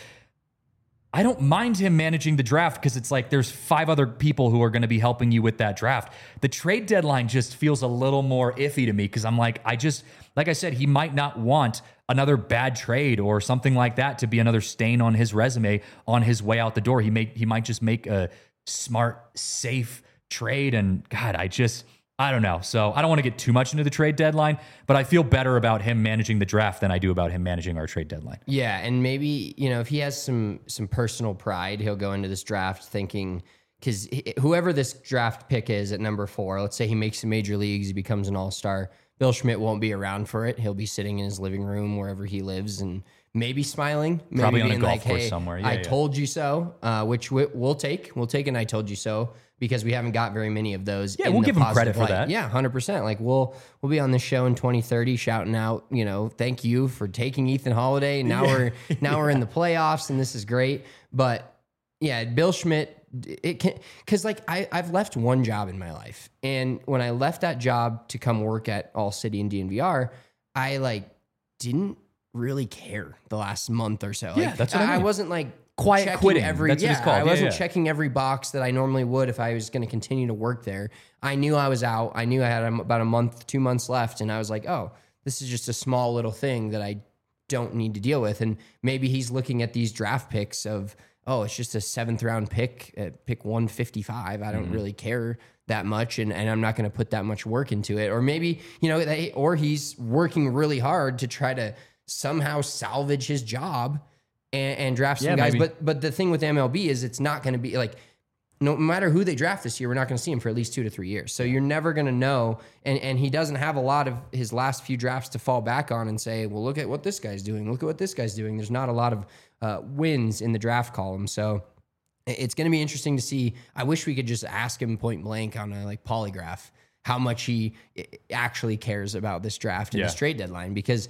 I don't mind him managing the draft because it's like there's five other people who are going to be helping you with that draft. The trade deadline just feels a little more iffy to me because I'm like, I just, like I said, he might not want another bad trade or something like that to be another stain on his resume on his way out the door. He may, he might just make a smart, safe trade. And God, I just, I don't know. So I don't want to get too much into the trade deadline, but I feel better about him managing the draft than I do about him managing our trade deadline. Yeah, and maybe, you know, if he has some some personal pride, he'll go into this draft thinking, because whoever this draft pick is at number four, let's say he makes the major leagues, he becomes an all-star, Bill Schmidt won't be around for it. He'll be sitting in his living room wherever he lives and maybe smiling, maybe Probably on being a golf like, course hey, somewhere. Yeah, I yeah. told you so, uh, which we, we'll take. We'll take an I told you so because we haven't got very many of those. Yeah, in we'll the give him credit positive for light. that. Yeah, one hundred percent. Like we'll we'll be on this show in twenty thirty shouting out, you know, thank you for taking Ethan Holiday. Now Yeah. we're now we're in the playoffs and this is great. But yeah, Bill Schmidt, it can, because like I, I've left one job in my life. And when I left that job to come work at All City and D N V R, I like didn't really care the last month or so. Yeah, Like, that's what I I, mean. wasn't like Quiet checking quitting. Every, That's what yeah, it's called. I Yeah, wasn't yeah. checking every box that I normally would if I was going to continue to work there. I knew I was out. I knew I had about a month, two months left. And I was like, oh, this is just a small little thing that I don't need to deal with. And maybe he's looking at these draft picks of, oh, it's just a seventh round pick at pick one fifty-five. I don't Mm-hmm. really care that much. And, and I'm not going to put that much work into it. Or maybe, you know, they, or he's working really hard to try to somehow salvage his job and, and draft some Yeah, guys. maybe. But but the thing with M L B is it's not going to be like, no matter who they draft this year, we're not going to see him for at least two to three years. So you're never going to know. And and he doesn't have a lot of his last few drafts to fall back on and say, well, look at what this guy's doing. Look at what this guy's doing. There's not a lot of uh, wins in the draft column. So it's going to be interesting to see. I wish we could just ask him point blank on a like polygraph how much he actually cares about this draft and Yeah. this trade deadline, because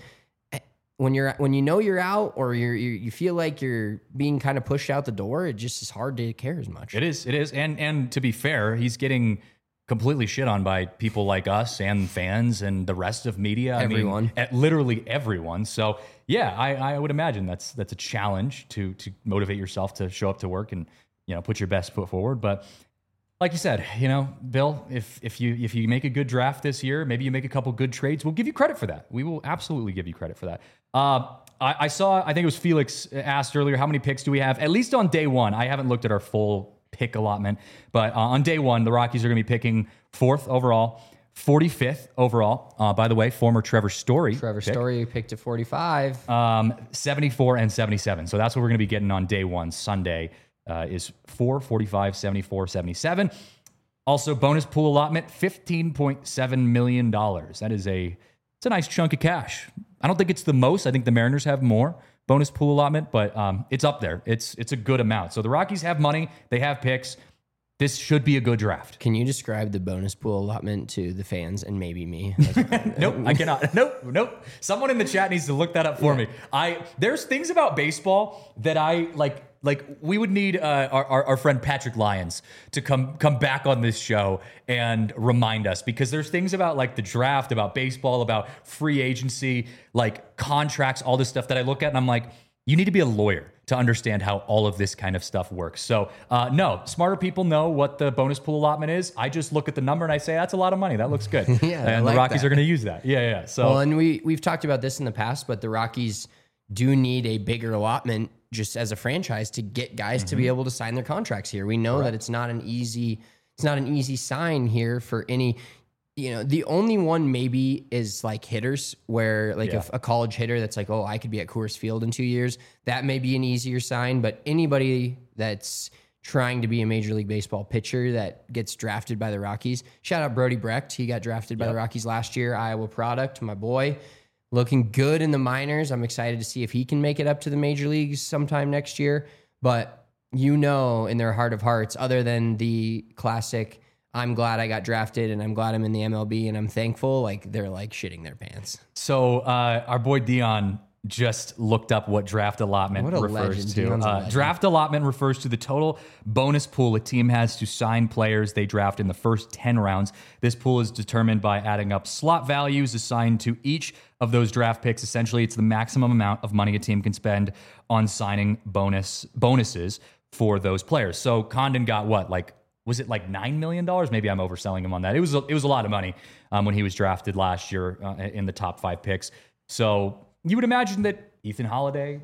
when you're when you know you're out or you're, you you feel like you're being kind of pushed out the door, it just is hard to care as much. It is. It is. And and to be fair, he's getting completely shit on by people like us and fans and the rest of media. Everyone. I mean, at literally everyone. So yeah, I, I would imagine that's that's a challenge to to motivate yourself to show up to work and, you know, put your best foot forward. But like you said, you know, Bill, if if you if you make a good draft this year, maybe you make a couple good trades, we'll give you credit for that. We will absolutely give you credit for that. Uh, I, I saw, I think it was Felix asked earlier, how many picks do we have? At least on day one. I haven't looked at our full pick allotment, but uh, on day one, the Rockies are going to be picking fourth overall, forty-fifth overall. Uh, by the way, former Trevor Story. Trevor pick. Story picked at forty-five. Um, seventy-four and seventy-seven. So that's what we're going to be getting on day one, Sunday, uh, is four, forty-five, seventy-four, seventy-seven. Also, bonus pool allotment, fifteen point seven million dollars. That is a, it's a nice chunk of cash. I don't think it's the most. I think the Mariners have more bonus pool allotment, but um, it's up there. It's it's a good amount. So the Rockies have money. They have picks. This should be a good draft. Can you describe the bonus pool allotment to the fans and maybe me? Nope, I cannot. Nope, nope. Someone in the chat needs to look that up for me. I there's things about baseball that I like like we would need uh, our, our our friend Patrick Lyons to come come back on this show and remind us, because there's things about like the draft, about baseball, about free agency, like contracts, all this stuff that I look at and I'm like, you need to be a lawyer to understand how all of this kind of stuff works. So uh, no, smarter people know what the bonus pool allotment is. I just look at the number and I say, that's a lot of money. That looks good. Yeah, and like the Rockies that. are going to use that. Yeah, yeah. So Well, and we, we've talked about this in the past, but the Rockies do need a bigger allotment just as a franchise to get guys mm-hmm. to be able to sign their contracts here. We know Correct. that it's not an easy, it's not an easy sign here for any, you know, the only one maybe is like hitters, where like Yeah. if a college hitter that's like, oh, I could be at Coors Field in two years, that may be an easier sign. But anybody that's trying to be a Major League Baseball pitcher that gets drafted by the Rockies, shout out Brody Brecht. He got drafted by Yep. the Rockies last year, Iowa product, my boy. Looking good in the minors. I'm excited to see if he can make it up to the major leagues sometime next year. But you know, in their heart of hearts, other than the classic, I'm glad I got drafted and I'm glad I'm in the M L B and I'm thankful, like they're like shitting their pants. So uh, our boy Dion just looked up what draft allotment What a refers legend. to. Dion's a Uh, legend. draft allotment refers to the total bonus pool a team has to sign players they draft in the first ten rounds. This pool is determined by adding up slot values assigned to each of those draft picks. Essentially, it's the maximum amount of money a team can spend on signing bonus bonuses for those players. So Condon got what, like, was it like nine million dollars? Maybe I'm overselling him on that. It was a, it was a lot of money um, when he was drafted last year uh, in the top five picks. So you would imagine that Ethan Holiday,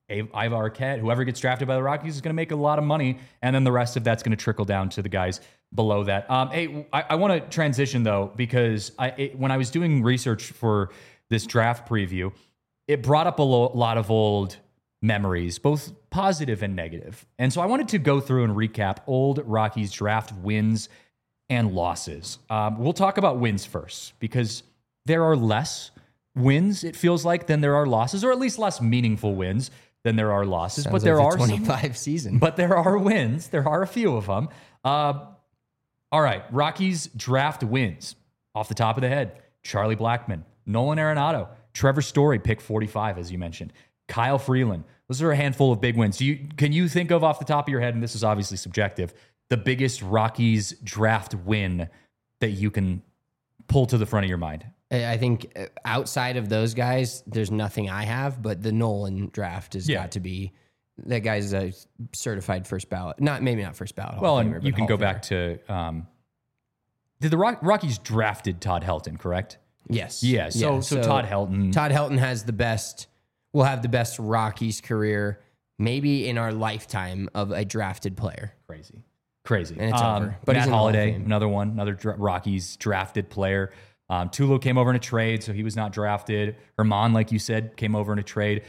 Ivar Arquette, whoever gets drafted by the Rockies is going to make a lot of money, and then the rest of that's going to trickle down to the guys below that. Um, hey, I, I want to transition though, because I it, when I was doing research for this draft preview, it brought up a lo- lot of old memories, both positive and negative. And so I wanted to go through and recap old Rockies draft wins and losses. Um, we'll talk about wins first, because there are less wins, it feels like, than there are losses, or at least less meaningful wins than there are losses. Sounds but there like are the some, twenty-five season. but there are wins. There are a few of them. Uh, all right, Rockies draft wins off the top of the head: Charlie Blackmon, Nolan Arenado, Trevor Story, pick forty-five, as you mentioned, Kyle Freeland. Those are a handful of big wins. Do you, can you think of off the top of your head, and this is obviously subjective, the biggest Rockies draft win that you can pull to the front of your mind? I think outside of those guys, there's nothing I have, but the Nolan draft has Yeah. got to be, that guy's a certified first ballot. Not maybe not first ballot. Hall Well, of and Famer, you but can Hall go of back Famer. to, um, did the Rock, Rockies drafted Todd Helton, correct? Yes. Yeah, so Yeah, so, Todd Helton. Todd Helton has the best, will have the best Rockies career maybe in our lifetime of a drafted player. Crazy. Crazy. And it's um, over. But he's Matt in the Hall of Holliday, Fame. another one, another dra- Rockies drafted player. Um, Tulo came over in a trade, so he was not drafted. Herman, like you said, came over in a trade.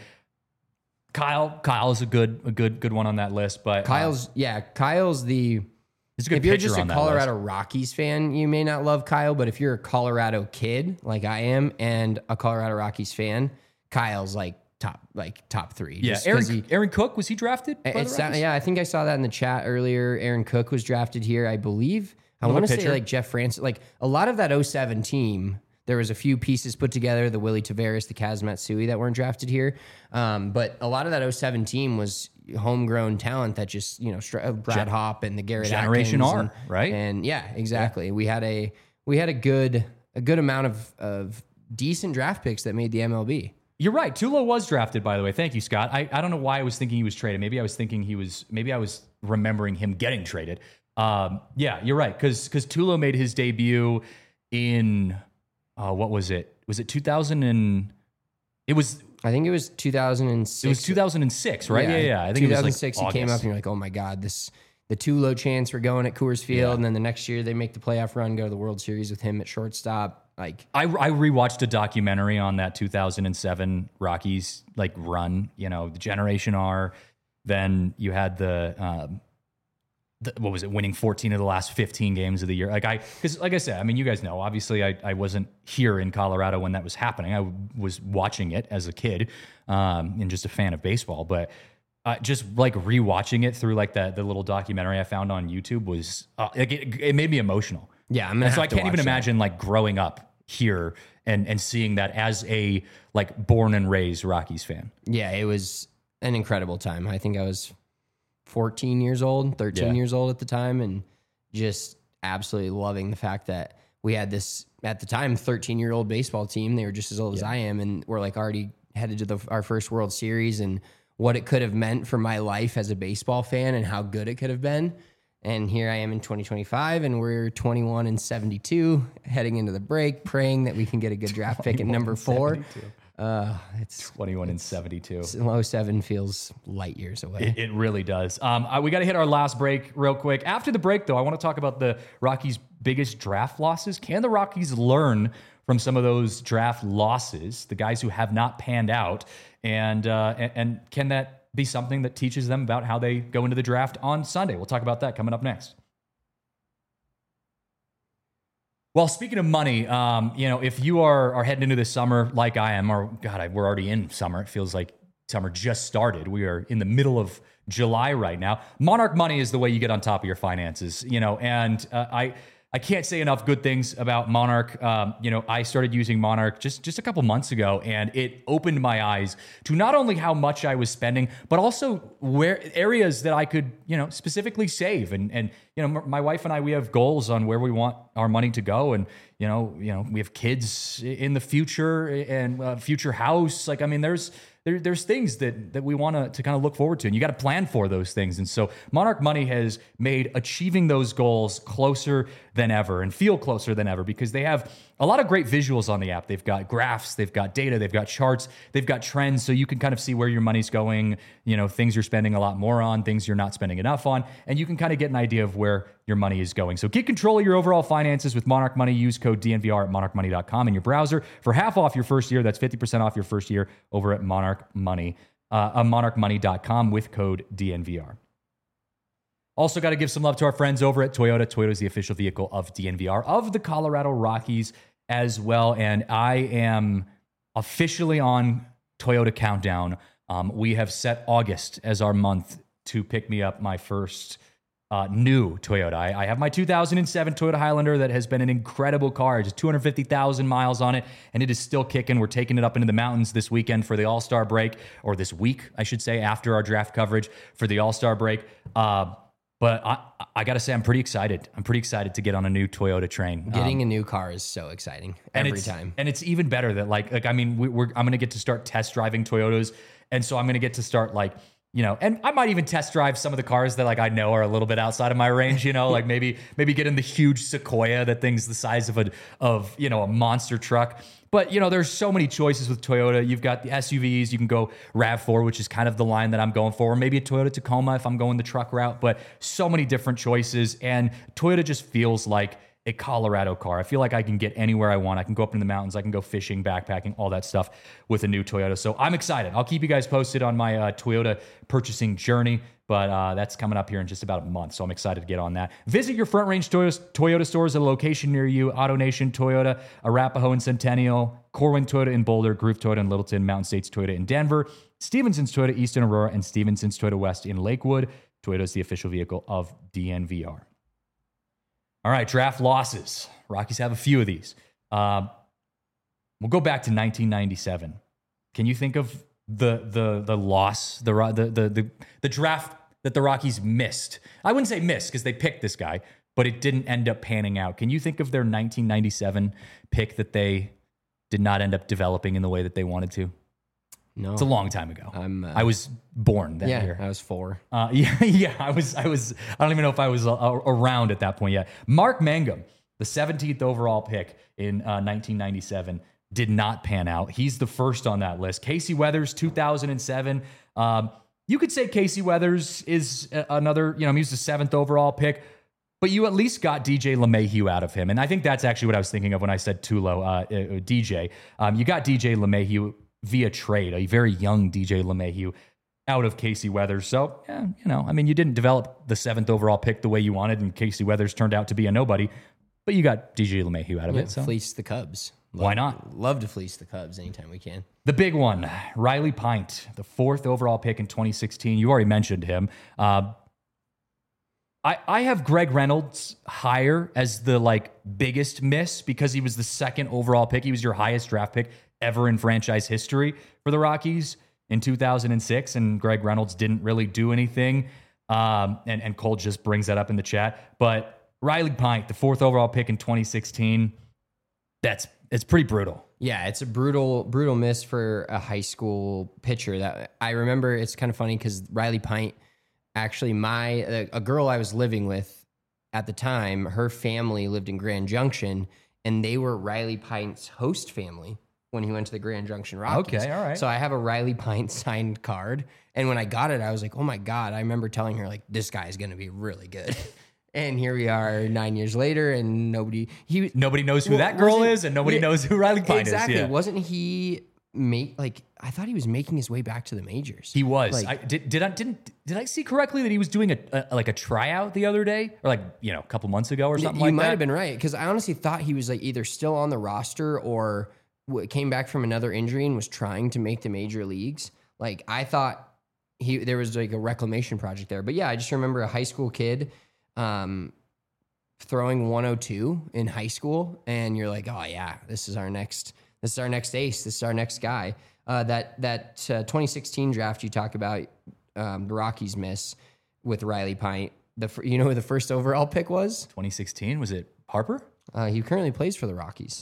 Kyle, Kyle is a good, a good, good one on that list. But Kyle's, uh, yeah, Kyle's the, he's a good if you're pitcher just a on that Colorado list. Rockies fan, you may not love Kyle, but if you're a Colorado kid like I am and a Colorado Rockies fan, Kyle's like top, like top three. Yeah, Just Aaron, 'cause he- Aaron Cook, was he drafted? by the It's that, Rockies? yeah, I think I saw that in the chat earlier. Aaron Cook was drafted here, I believe. I Another want to say pitcher. like Jeff Francis, like a lot of that oh seven team. There was a few pieces put together, the Willie Tavares, the Kaz Matsui that weren't drafted here. Um, but a lot of that oh seven team was homegrown talent that just, you know, str- Brad Gen- Hopp and the Garrett Generation Atkins R, and, right? And yeah, exactly. We had a we had a good a good amount of of decent draft picks that made the M L B. You're right. Tulo was drafted, by the way. Thank you, Scott. I, I don't know why I was thinking he was traded. Maybe I was thinking he was, maybe I was remembering him getting traded. Um, yeah, you're right. Because because Tulo made his debut in, uh, what was it? Was it two thousand and, it was, I think it was two thousand six. it was two thousand six, right? Yeah, yeah. I think two thousand it was six. like He came up August. and you're like, oh my god, this the Tulo chance for going at Coors Field, Yeah. and then the next year they make the playoff run, go to the World Series with him at shortstop. Like, I, I rewatched a documentary on that two thousand seven Rockies like run, you know, the Generation R. Then you had the, um, the what was it, winning fourteen of the last fifteen games of the year. Like I, because like I said, I mean, you guys know, obviously I, I wasn't here in Colorado when that was happening. I was watching it as a kid um, and just a fan of baseball. But uh, just like rewatching it through like the, the little documentary I found on YouTube was, uh, like it, it made me emotional. yeah, I'm gonna And so have I to can't even watch that. imagine like growing up here and and seeing that as a like born and raised Rockies fan. Yeah, it was an incredible time. I think I was fourteen years old, thirteen Yeah. years old at the time, and just absolutely loving the fact that we had this, at the time, thirteen year old baseball team. They were just as old as I am, and we're like already headed to the, our first World Series, and what it could have meant for my life as a baseball fan and how good it could have been. And here I am in twenty twenty-five, and we're twenty-one and seventy-two, heading into the break, praying that we can get a good draft pick at number four. Uh, it's twenty-one and seventy-two. Low seven feels light years away. It, it really does. Um, uh, we got to hit our last break real quick. After the break, though, I want to talk about the Rockies' biggest draft losses. Can the Rockies learn from some of those draft losses, the guys who have not panned out, and uh, and, and can that be something that teaches them about how they go into the draft on Sunday? We'll talk about that coming up next. Well, speaking of money, um, you know, if you are are heading into the summer like I am, or God, I, we're already in summer. It feels like summer just started. We are in the middle of July right now. Monarch Money is the way you get on top of your finances, you know, and uh, I I can't say enough good things about Monarch. Um, you know, I started using Monarch just, just a couple months ago, and it opened my eyes to not only how much I was spending, but also where areas that I could, you know, specifically save. And, and, you know, my wife and I, we have goals on where we want our money to go. And, you know, you know, we have kids in the future and a future house. Like, I mean, there's, There, there's things that that we want to to kind of look forward to, and you got to plan for those things. And so Monarch Money has made achieving those goals closer than ever and feel closer than ever, because they have a lot of great visuals on the app. They've got graphs, they've got data, they've got charts, they've got trends, so you can kind of see where your money's going, you know, things you're spending a lot more on, things you're not spending enough on, and you can kind of get an idea of where your money is going. So get control of your overall finances with Monarch Money. Use code D N V R at monarch money dot com in your browser for half off your first year. That's fifty percent off your first year over at Monarch Money, uh, uh, monarch money dot com with code D N V R. Also got to give some love to our friends over at Toyota. Toyota is the official vehicle of D N V R, of the Colorado Rockies as well. And I am officially on Toyota Countdown. Um, we have set August as our month to pick me up my first Uh, new Toyota. I, I have my two thousand seven Toyota Highlander that has been an incredible car. Just two hundred fifty thousand miles on it, and it is still kicking. We're taking it up into the mountains this weekend for the All-Star break, or this week, I should say, after our draft coverage for the All-Star break. Uh, but I, I got to say, I'm pretty excited. I'm pretty excited to get on a new Toyota train. Getting Um, a new car is so exciting and every it's, time. And it's even better that like, like I mean, we, we're I'm going to get to start test driving Toyotas. And so I'm going to get to start like, you know, and I might even test drive some of the cars that like I know are a little bit outside of my range, you know, like maybe maybe get in the huge Sequoia that thing's the size of a of, you know, a monster truck. But, you know, there's so many choices with Toyota. You've got the S U Vs. You can go RAV four, which is kind of the line that I'm going for, or maybe a Toyota Tacoma if I'm going the truck route. But so many different choices, and Toyota just feels like a Colorado car. I feel like I can get anywhere I want. I can go up in the mountains. I can go fishing, backpacking, all that stuff with a new Toyota. So I'm excited. I'll keep you guys posted on my uh, Toyota purchasing journey, but uh, that's coming up here in just about a month. So I'm excited to get on that. Visit your Front Range Toyota, Toyota stores at a location near you. AutoNation Toyota, Arapahoe and Centennial, Corwin Toyota in Boulder, Groove Toyota in Littleton, Mountain States Toyota in Denver, Stevenson's Toyota East in Aurora, and Stevenson's Toyota West in Lakewood. Toyota is the official vehicle of D N V R. All right, draft losses. Rockies have a few of these. Um, we'll go back to nineteen ninety-seven. Can you think of the the the loss, the the the the, the draft that the Rockies missed? I wouldn't say missed because they picked this guy, but it didn't end up panning out. Can you think of their nineteen ninety-seven pick that they did not end up developing in the way that they wanted to? No, It's a long time ago. I'm, uh, I was born that yeah, year. I was four. Uh, yeah, yeah, I was, I was, I don't even know if I was uh, around at that point yet. Mark Mangum, the seventeenth overall pick in uh, nineteen ninety-seven, did not pan out. He's the first on that list. Casey Weathers, two thousand seven. Um, you could say Casey Weathers is another, you know, he was the seventh overall pick, but you at least got D J LeMahieu out of him. And I think that's actually what I was thinking of when I said Tulo, uh, uh, D J. Um, you got D J LeMahieu via trade, a very young D J LeMahieu out of Casey Weathers. So, yeah, you know, I mean, you didn't develop the seventh overall pick the way you wanted, and Casey Weathers turned out to be a nobody, but you got D J LeMahieu out of Yeah, it. So fleece the Cubs. Love, why not? Love to fleece the Cubs anytime we can. The big one, Riley Pint, the fourth overall pick in twenty sixteen. You already mentioned him. Uh, I, I have Greg Reynolds higher as the like biggest miss because he was the second overall pick. He was your highest draft pick ever in franchise history for the Rockies in two thousand six, and Greg Reynolds didn't really do anything. Um, and, and Cole just brings that up in the chat. But Riley Pint, the fourth overall pick in twenty sixteen, that's it's pretty brutal. Yeah, it's a brutal, brutal miss for a high school pitcher. That I remember. It's kind of funny because Riley Pint, actually, my a, a girl I was living with at the time, her family lived in Grand Junction, and they were Riley Pint's host family when he went to the Grand Junction Rockies. Okay, all right. So I have a Riley Pint signed card, and when I got it, I was like, "Oh my god!" I remember telling her like, "This guy's going to be really good." And here we are nine years later, and nobody he nobody knows who well, that girl wasn't- is, and nobody yeah, knows who Riley Pint exactly. is. Yeah. Wasn't he make like I thought he was making his way back to the majors? He was. Like, I, did did I didn't did I see correctly that he was doing a, a like a tryout the other day, or like you know a couple months ago or something you like might that? have been right because I honestly thought he was like either still on the roster or w- came back from another injury and was trying to make the major leagues. Like I thought he there was like a reclamation project there. But yeah, I just remember a high school kid. Um, throwing one oh two in high school, and you're like, oh yeah, this is our next, this is our next ace, this is our next guy. Uh, that that uh, twenty sixteen draft you talk about, um, the Rockies miss with Riley Pint. The fir- you know who the first overall pick was? twenty sixteen, was it Harper? Uh, he currently plays for the Rockies.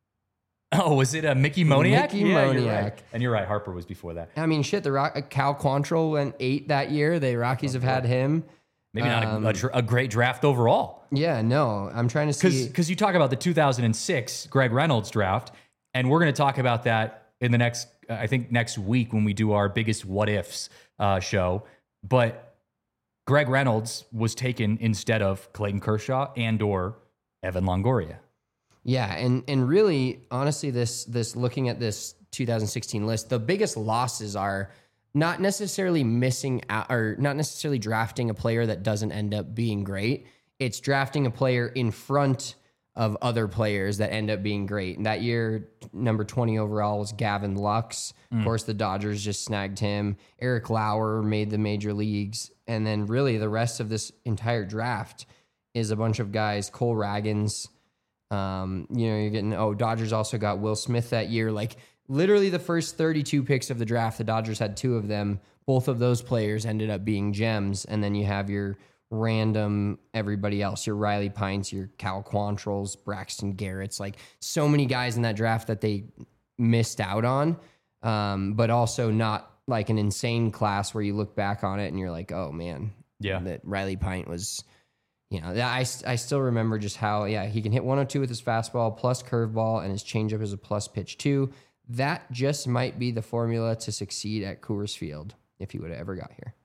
Oh, was it a Mickey Moniak? Mickey yeah, You're Moniak. right. And you're right, Harper was before that. I mean, shit, the Rock, uh, Cal Quantrill went eight that year. The Rockies have had him. Maybe not Um, a, a, dr- a great draft overall. Yeah, no, I'm trying to see. Because you talk about the two thousand six Greg Reynolds draft, and we're going to talk about that in the next, uh, I think next week when we do our biggest what ifs uh, show. But Greg Reynolds was taken instead of Clayton Kershaw and or Evan Longoria. Yeah, and and really, honestly, this this looking at this two thousand sixteen list, the biggest losses are not necessarily missing out or not necessarily drafting a player that doesn't end up being great. It's drafting a player in front of other players that end up being great. And that year, number twenty overall was Gavin Lux. Mm. Of course, the Dodgers just snagged him. Eric Lauer made the major leagues. And then really the rest of this entire draft is a bunch of guys, Cole Raggins. Um, you know, you're getting, oh, Dodgers also got Will Smith that year. Like literally the first thirty-two picks of the draft, the Dodgers had two of them. Both of those players ended up being gems. And then you have your random everybody else, your Riley Pints, your Cal Quantrills, Braxton Garrett's, like so many guys in that draft that they missed out on. Um, but also not like an insane class where you look back on it and you're like, oh man, Yeah. that Riley Pint was, you know, that I, I still remember just how, yeah, he can hit one oh two with his fastball plus curveball, and his changeup is a plus pitch too. That just might be the formula to succeed at Coors Field if he would have ever got here.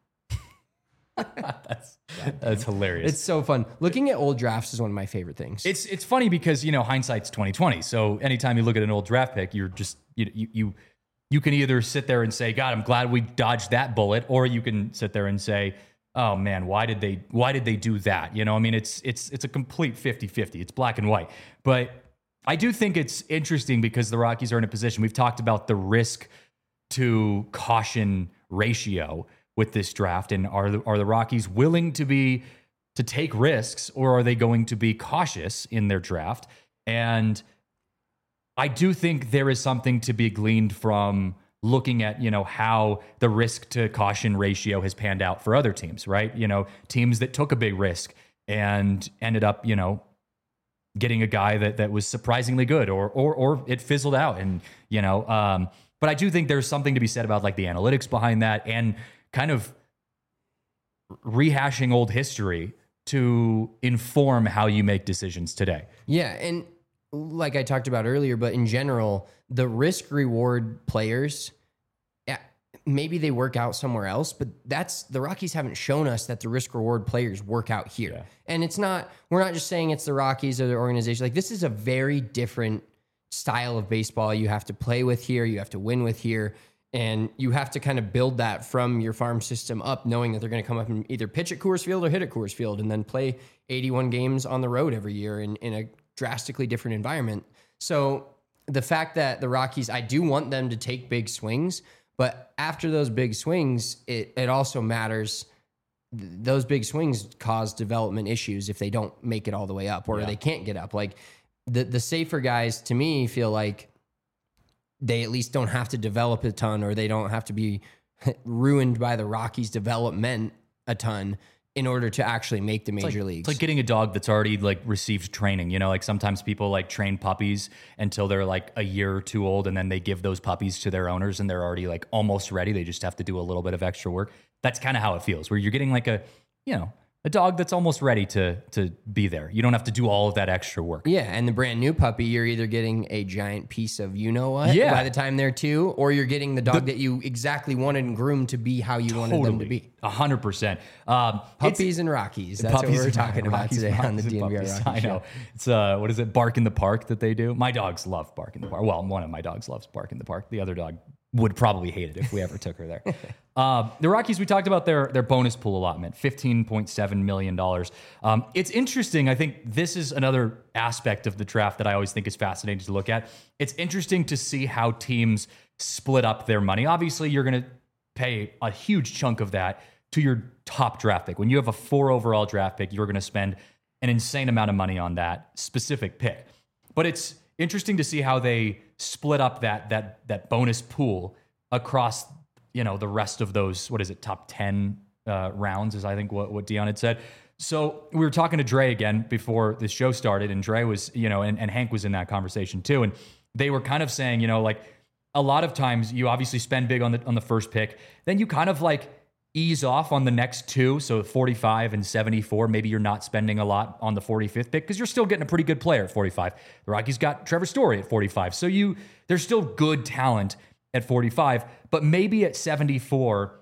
that's that's hilarious. It's so fun. Looking at old drafts is one of my favorite things. It's it's funny because, you know, hindsight's twenty twenty. So anytime you look at an old draft pick, you're just you you you, you can either sit there and say, God, I'm glad we dodged that bullet, or you can sit there and say, oh man, why did they why did they do that? You know, I mean, it's it's it's a complete fifty-fifty. It's black and white. But I do think it's interesting because the Rockies are in a position. We've talked about the risk to caution ratio with this draft, and are the, are the Rockies willing to be to take risks, or are they going to be cautious in their draft? And I do think there is something to be gleaned from looking at, you know, how the risk to caution ratio has panned out for other teams, right? You know, teams that took a big risk and ended up, you know, getting a guy that that was surprisingly good, or or or it fizzled out, and you know. Um, but I do think there's something to be said about like the analytics behind that, and kind of rehashing old history to inform how you make decisions today. Yeah, and like I talked about earlier, but in general, the risk reward players, yeah, maybe they work out somewhere else, but that's the Rockies haven't shown us that the risk reward players work out here. Yeah. And it's not, we're not just saying it's the Rockies or the organization. Like this is a very different style of baseball you have to play with here, you have to win with here. And you have to kind of build that from your farm system up, knowing that they're going to come up and either pitch at Coors Field or hit at Coors Field, and then play eighty-one games on the road every year in, in a drastically different environment. So the fact that the Rockies, I do want them to take big swings, but after those big swings, it, it also matters. Th- those big swings cause development issues if they don't make it all the way up, or Yeah. they can't get up. Like the, the safer guys, to me, feel like they at least don't have to develop a ton, or they don't have to be ruined by the Rockies' development a ton in order to actually make the major It's like, leagues. it's like getting a dog that's already like received training. You know, like sometimes people like train puppies until they're like a year or two old, and then they give those puppies to their owners and they're already like almost ready. They just have to do a little bit of extra work. That's kind of how it feels, where you're getting like a, you know, a dog that's almost ready to to be there. You don't have to do all of that extra work. Yeah, and the brand new puppy, you're either getting a giant piece of you know what Yeah. by the time they're two, or you're getting the dog that you exactly wanted and groomed to be how you wanted them to be. A hundred percent. Um, Puppies and Rockies. That's puppies what we're and talking about Rockies, today on the puppies D N V R and Rocky puppies. I Show. know. It's uh, what is it? Bark in the Park that they do. My dogs love Bark in the Park. Well, one of my dogs loves Bark in the Park. The other dog would probably hate it if we ever took her there. Uh, the Rockies, we talked about their their bonus pool allotment, fifteen point seven million dollars. Um, it's interesting. I think this is another aspect of the draft that I always think is fascinating to look at. It's interesting to see how teams split up their money. Obviously, you're going to pay a huge chunk of that to your top draft pick. When you have a four overall draft pick, you're going to spend an insane amount of money on that specific pick. But it's interesting to see how they split up that that that bonus pool across, you know, the rest of those, what is it, top ten uh, rounds is I think what, what Dion had said. So we were talking to Dre again before this show started, and Dre was, you know, and, and Hank was in that conversation too. And they were kind of saying, you know, like a lot of times you obviously spend big on the on the first pick, then you kind of like ease off on the next two. So forty-five and seventy-four, maybe you're not spending a lot on the forty-fifth pick because you're still getting a pretty good player at forty-five. The Rockies got Trevor Story at forty-five. So you there's still good talent at forty-five, but maybe at seventy-four,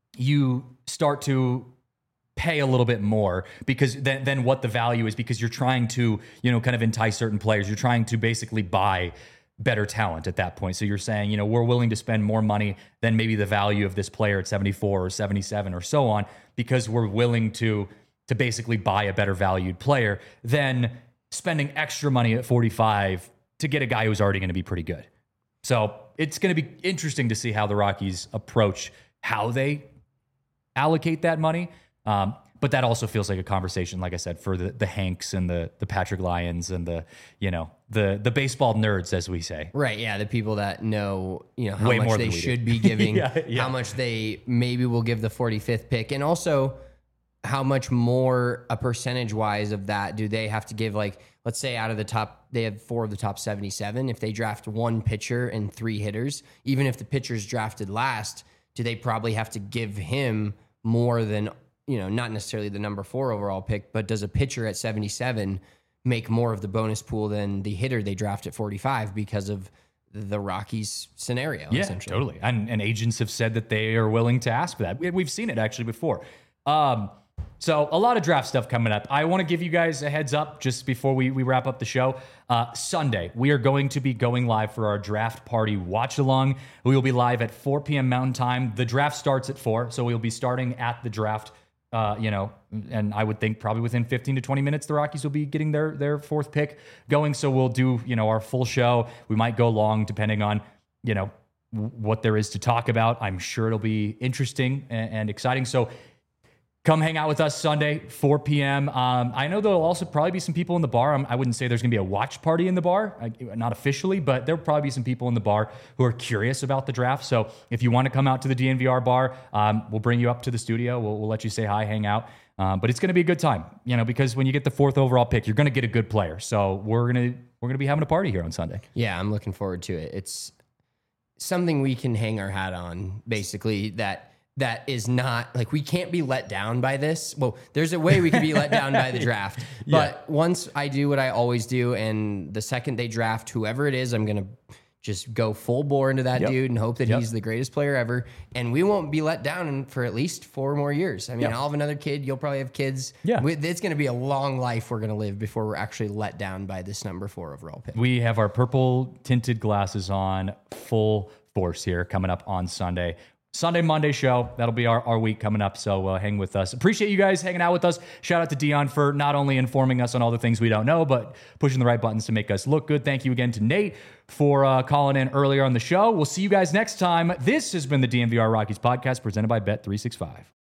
you start to pay a little bit more because then, then what the value is, because you're trying to, you know, kind of entice certain players. You're trying to basically buy better talent at that point. So you're saying, you know, we're willing to spend more money than maybe the value of this player at seventy-four or seventy-seven or so on, because we're willing to to basically buy a better valued player than spending extra money at forty-five to get a guy who's already going to be pretty good. So it's going to be interesting to see how the Rockies approach how they allocate that money. Um, but that also feels like a conversation, like I said, for the, the Hanks and the the Patrick Lyons and the, you know, the the baseball nerds, as we say. Right, yeah, the people that know, you know, how Way more much than they we should do. be giving, Yeah, yeah. how much they maybe will give the forty-fifth pick, and also how much more a percentage-wise of that do they have to give. Like, let's say out of the top, they have four of the top seventy-seven. If they draft one pitcher and three hitters, even if the pitcher's drafted last, do they probably have to give him more than, you know, not necessarily the number four overall pick, but does a pitcher at seventy-seven make more of the bonus pool than the hitter they draft at forty-five because of the Rockies scenario? Yeah, essentially. totally. And, and agents have said that they are willing to ask for that. We, we've seen it actually before. Um, so a lot of draft stuff coming up. I want to give you guys a heads up just before we, we wrap up the show. Uh, Sunday, we are going to be going live for our draft party watch along. We will be live at four p.m. Mountain Time. The draft starts at four, so we'll be starting at the draft. Uh, you know, and I would think probably within fifteen to twenty minutes, the Rockies will be getting their their fourth pick going. So we'll do, you know, our full show. We might go long depending on, you know, w- what there is to talk about. I'm sure it'll be interesting and, and exciting. So come hang out with us Sunday, four p.m. Um, I know there'll also probably be some people in the bar. I'm, I wouldn't say there's going to be a watch party in the bar, I, not officially, but there'll probably be some people in the bar who are curious about the draft. So if you want to come out to the D N V R bar, um, we'll bring you up to the studio. We'll, we'll let you say hi, hang out. Um, but it's going to be a good time, you know, because when you get the fourth overall pick, you're going to get a good player. So we're going to we're going to be having a party here on Sunday. Yeah, I'm looking forward to it. It's something we can hang our hat on, basically, that that is not, like, we can't be let down by this. Well, there's a way we can be let down by the draft. But Yeah. once I do what I always do, and the second they draft whoever it is, I'm going to just go full bore into that Yep. dude and hope that Yep. he's the greatest player ever. And we won't be let down in, for at least four more years. I mean, Yeah. I'll have another kid. You'll probably have kids. Yeah. We- It's going to be a long life we're going to live before we're actually let down by this number four overall pick. We have our purple tinted glasses on full force here coming up on Sunday. Sunday, Monday show. That'll be our, our week coming up. So uh, hang with us. Appreciate you guys hanging out with us. Shout out to Dion for not only informing us on all the things we don't know, but pushing the right buttons to make us look good. Thank you again to Nate for uh, calling in earlier on the show. We'll see you guys next time. This has been the D N V R Rockies podcast presented by Bet three sixty-five.